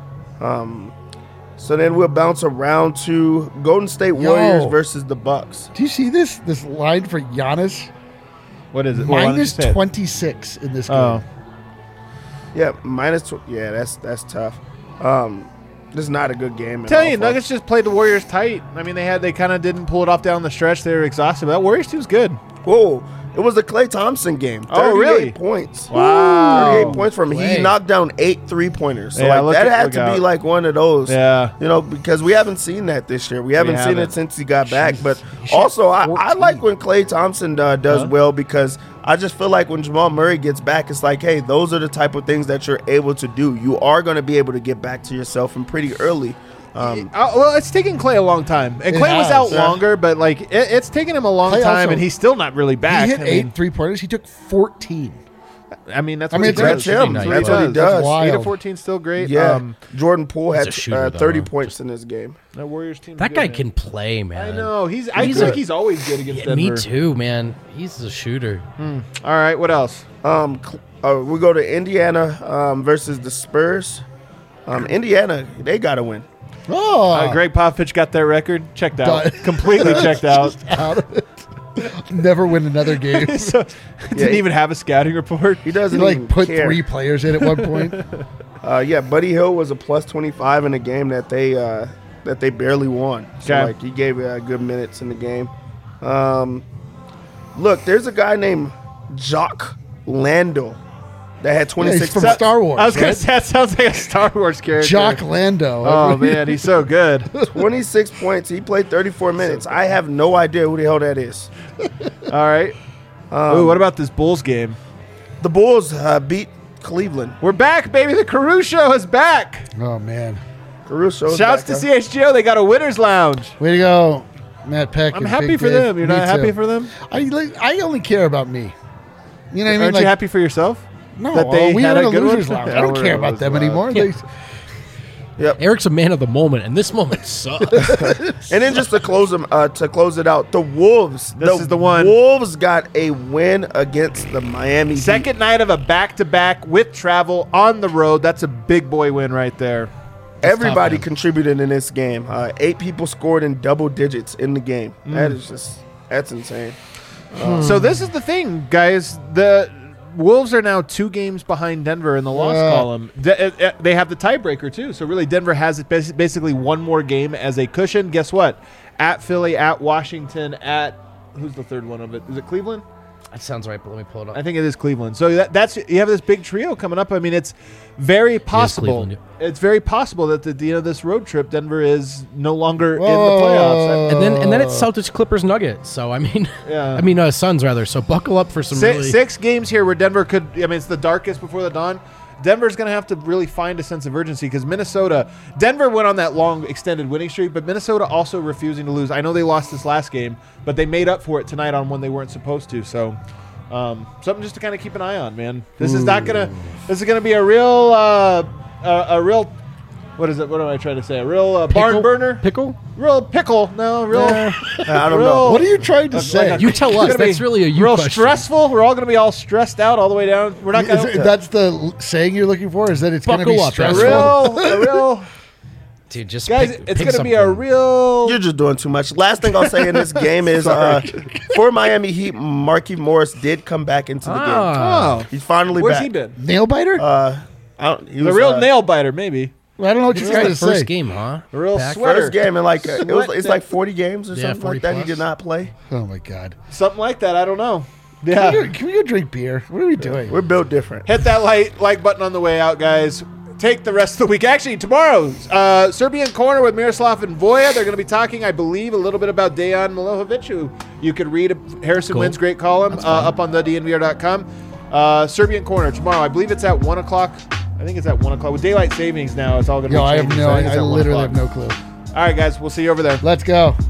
So then we'll bounce around to Golden State Warriors versus the Bucks. Do you see this line for Giannis? What is it? Minus 26 in this game. Oh. Yeah, yeah, that's tough. This is not a good game. Tell you, Nuggets just played the Warriors tight. I mean, they kind of didn't pull it off down the stretch. They were exhausted. But that Warriors team's good. Whoa. It was the Klay Thompson game. 38 Oh, really? points. Wow. 38 points from him. He knocked down 8 3-pointers. So Yeah, that had to be one of those. Yeah. Because we haven't seen that this year. We haven't seen it since he got back. But also, I like when Klay Thompson does well because I just feel like when Jamal Murray gets back, it's hey, those are the type of things that you're able to do. You are going to be able to get back to yourself and pretty early. Well, it's taken Klay a long time. And Klay was out longer, but it's taken him a long time, also, and he's still not really back. He hit 8 3-pointers. He took 14. I mean, that's him. That's what he does. 8 of 14 still great. Yeah. Jordan Poole had shooter, 30 points in this game. That Warriors team. That guy can play, man. I know. I feel like he's always good against Denver. Me too, man. He's a shooter. All right. What else? We go to Indiana versus the Spurs. Indiana, they got to win. Greg Popovich got their record checked out. Completely checked out. Out of it. Never win another game. Didn't even have a scouting report. He doesn't He even put care. 3 players in at one point. Buddy Hield was a plus 25 in a game that they barely won. So he gave good minutes in the game. Look, there's a guy named Jock Landale that had 26 from Star Wars. I was going to say, that sounds like a Star Wars character. Jock Lando. Oh, man, he's so good. 26 points. He played 34 minutes. I have no idea who the hell that is. All right. What about this Bulls game? The Bulls beat Cleveland. We're back, baby. The Caruso is back. Oh, man. Caruso. Shouts to CHGO. They got a winner's lounge. Way to go, Matt Peck. I'm happy for them. You're not happy for them? I only care about me. You know what I mean? Aren't you happy for yourself? No, that they we had had a a good losers one? lounge. I don't care about them anymore. Yeah. Eric's a man of the moment, and this moment sucks. And then just to close it out, the Wolves. This is the one. Wolves got a win against the Miami Heat. Second night of a back-to-back with travel on the road. That's a big boy win right there. Everybody contributed in this game. 8 people scored in double digits in the game. That's insane. So this is the thing, guys. The Wolves are now 2 games behind Denver in the loss column. They have the tiebreaker, too. So really, Denver has basically one more game as a cushion. Guess what? At Philly, at Washington, at – who's the third one of it? Is it Cleveland? That sounds right, but let me pull it up. I think it is Cleveland. So that's you have this big trio coming up. I mean, it's very possible. It's very possible that at the end of this road trip, Denver is no longer in the playoffs. And then it's Celtics, Clippers, Nuggets. So Suns rather. So buckle up for some 6 games here where Denver could. I mean, it's the darkest before the dawn. Denver's going to have to really find a sense of urgency because Denver went on that long extended winning streak, but Minnesota also refusing to lose. I know they lost this last game, but they made up for it tonight on when they weren't supposed to. So something just to kind of keep an eye on, man. This is going to be a real What is it? What am I trying to say? A real barn burner? Pickle? Real pickle? No, real. I don't know. What are you trying to say? You tell us. That's really a you real question. Stressful. We're all going to be all stressed out all the way down. We're not going to. That's the saying you're looking for? Is that it's going to be Buckle up, stressful? A real. Dude, just Guys, it's going to be a real. You're just doing too much. Last thing I'll say in this game is for Miami Heat, Markieff Morris did come back into the game. Oh. He's finally Where's back. he been? Nail biter? He was The real nail biter, maybe. I don't know what you're trying to say. First game, huh? A real Back. sweater. first game in like it's like 40 games or something 40 like that. plus. He did not play. Oh my god! Something like that. I don't know. Yeah. Can we go drink beer? What are we doing? We're built different. Hit that like button on the way out, guys. Take the rest of the week. Actually, tomorrow, Serbian Corner with Miroslav and Voya. They're going to be talking, I believe, a little bit about Dejan Milojevic, who you could read Harrison Wynn's great column up on thednvr.com. Serbian Corner tomorrow. I believe it's at 1 o'clock. I think it's at 1 o'clock. With daylight savings now, it's all going to be changing. I literally have no clue. All right, guys. We'll see you over there. Let's go.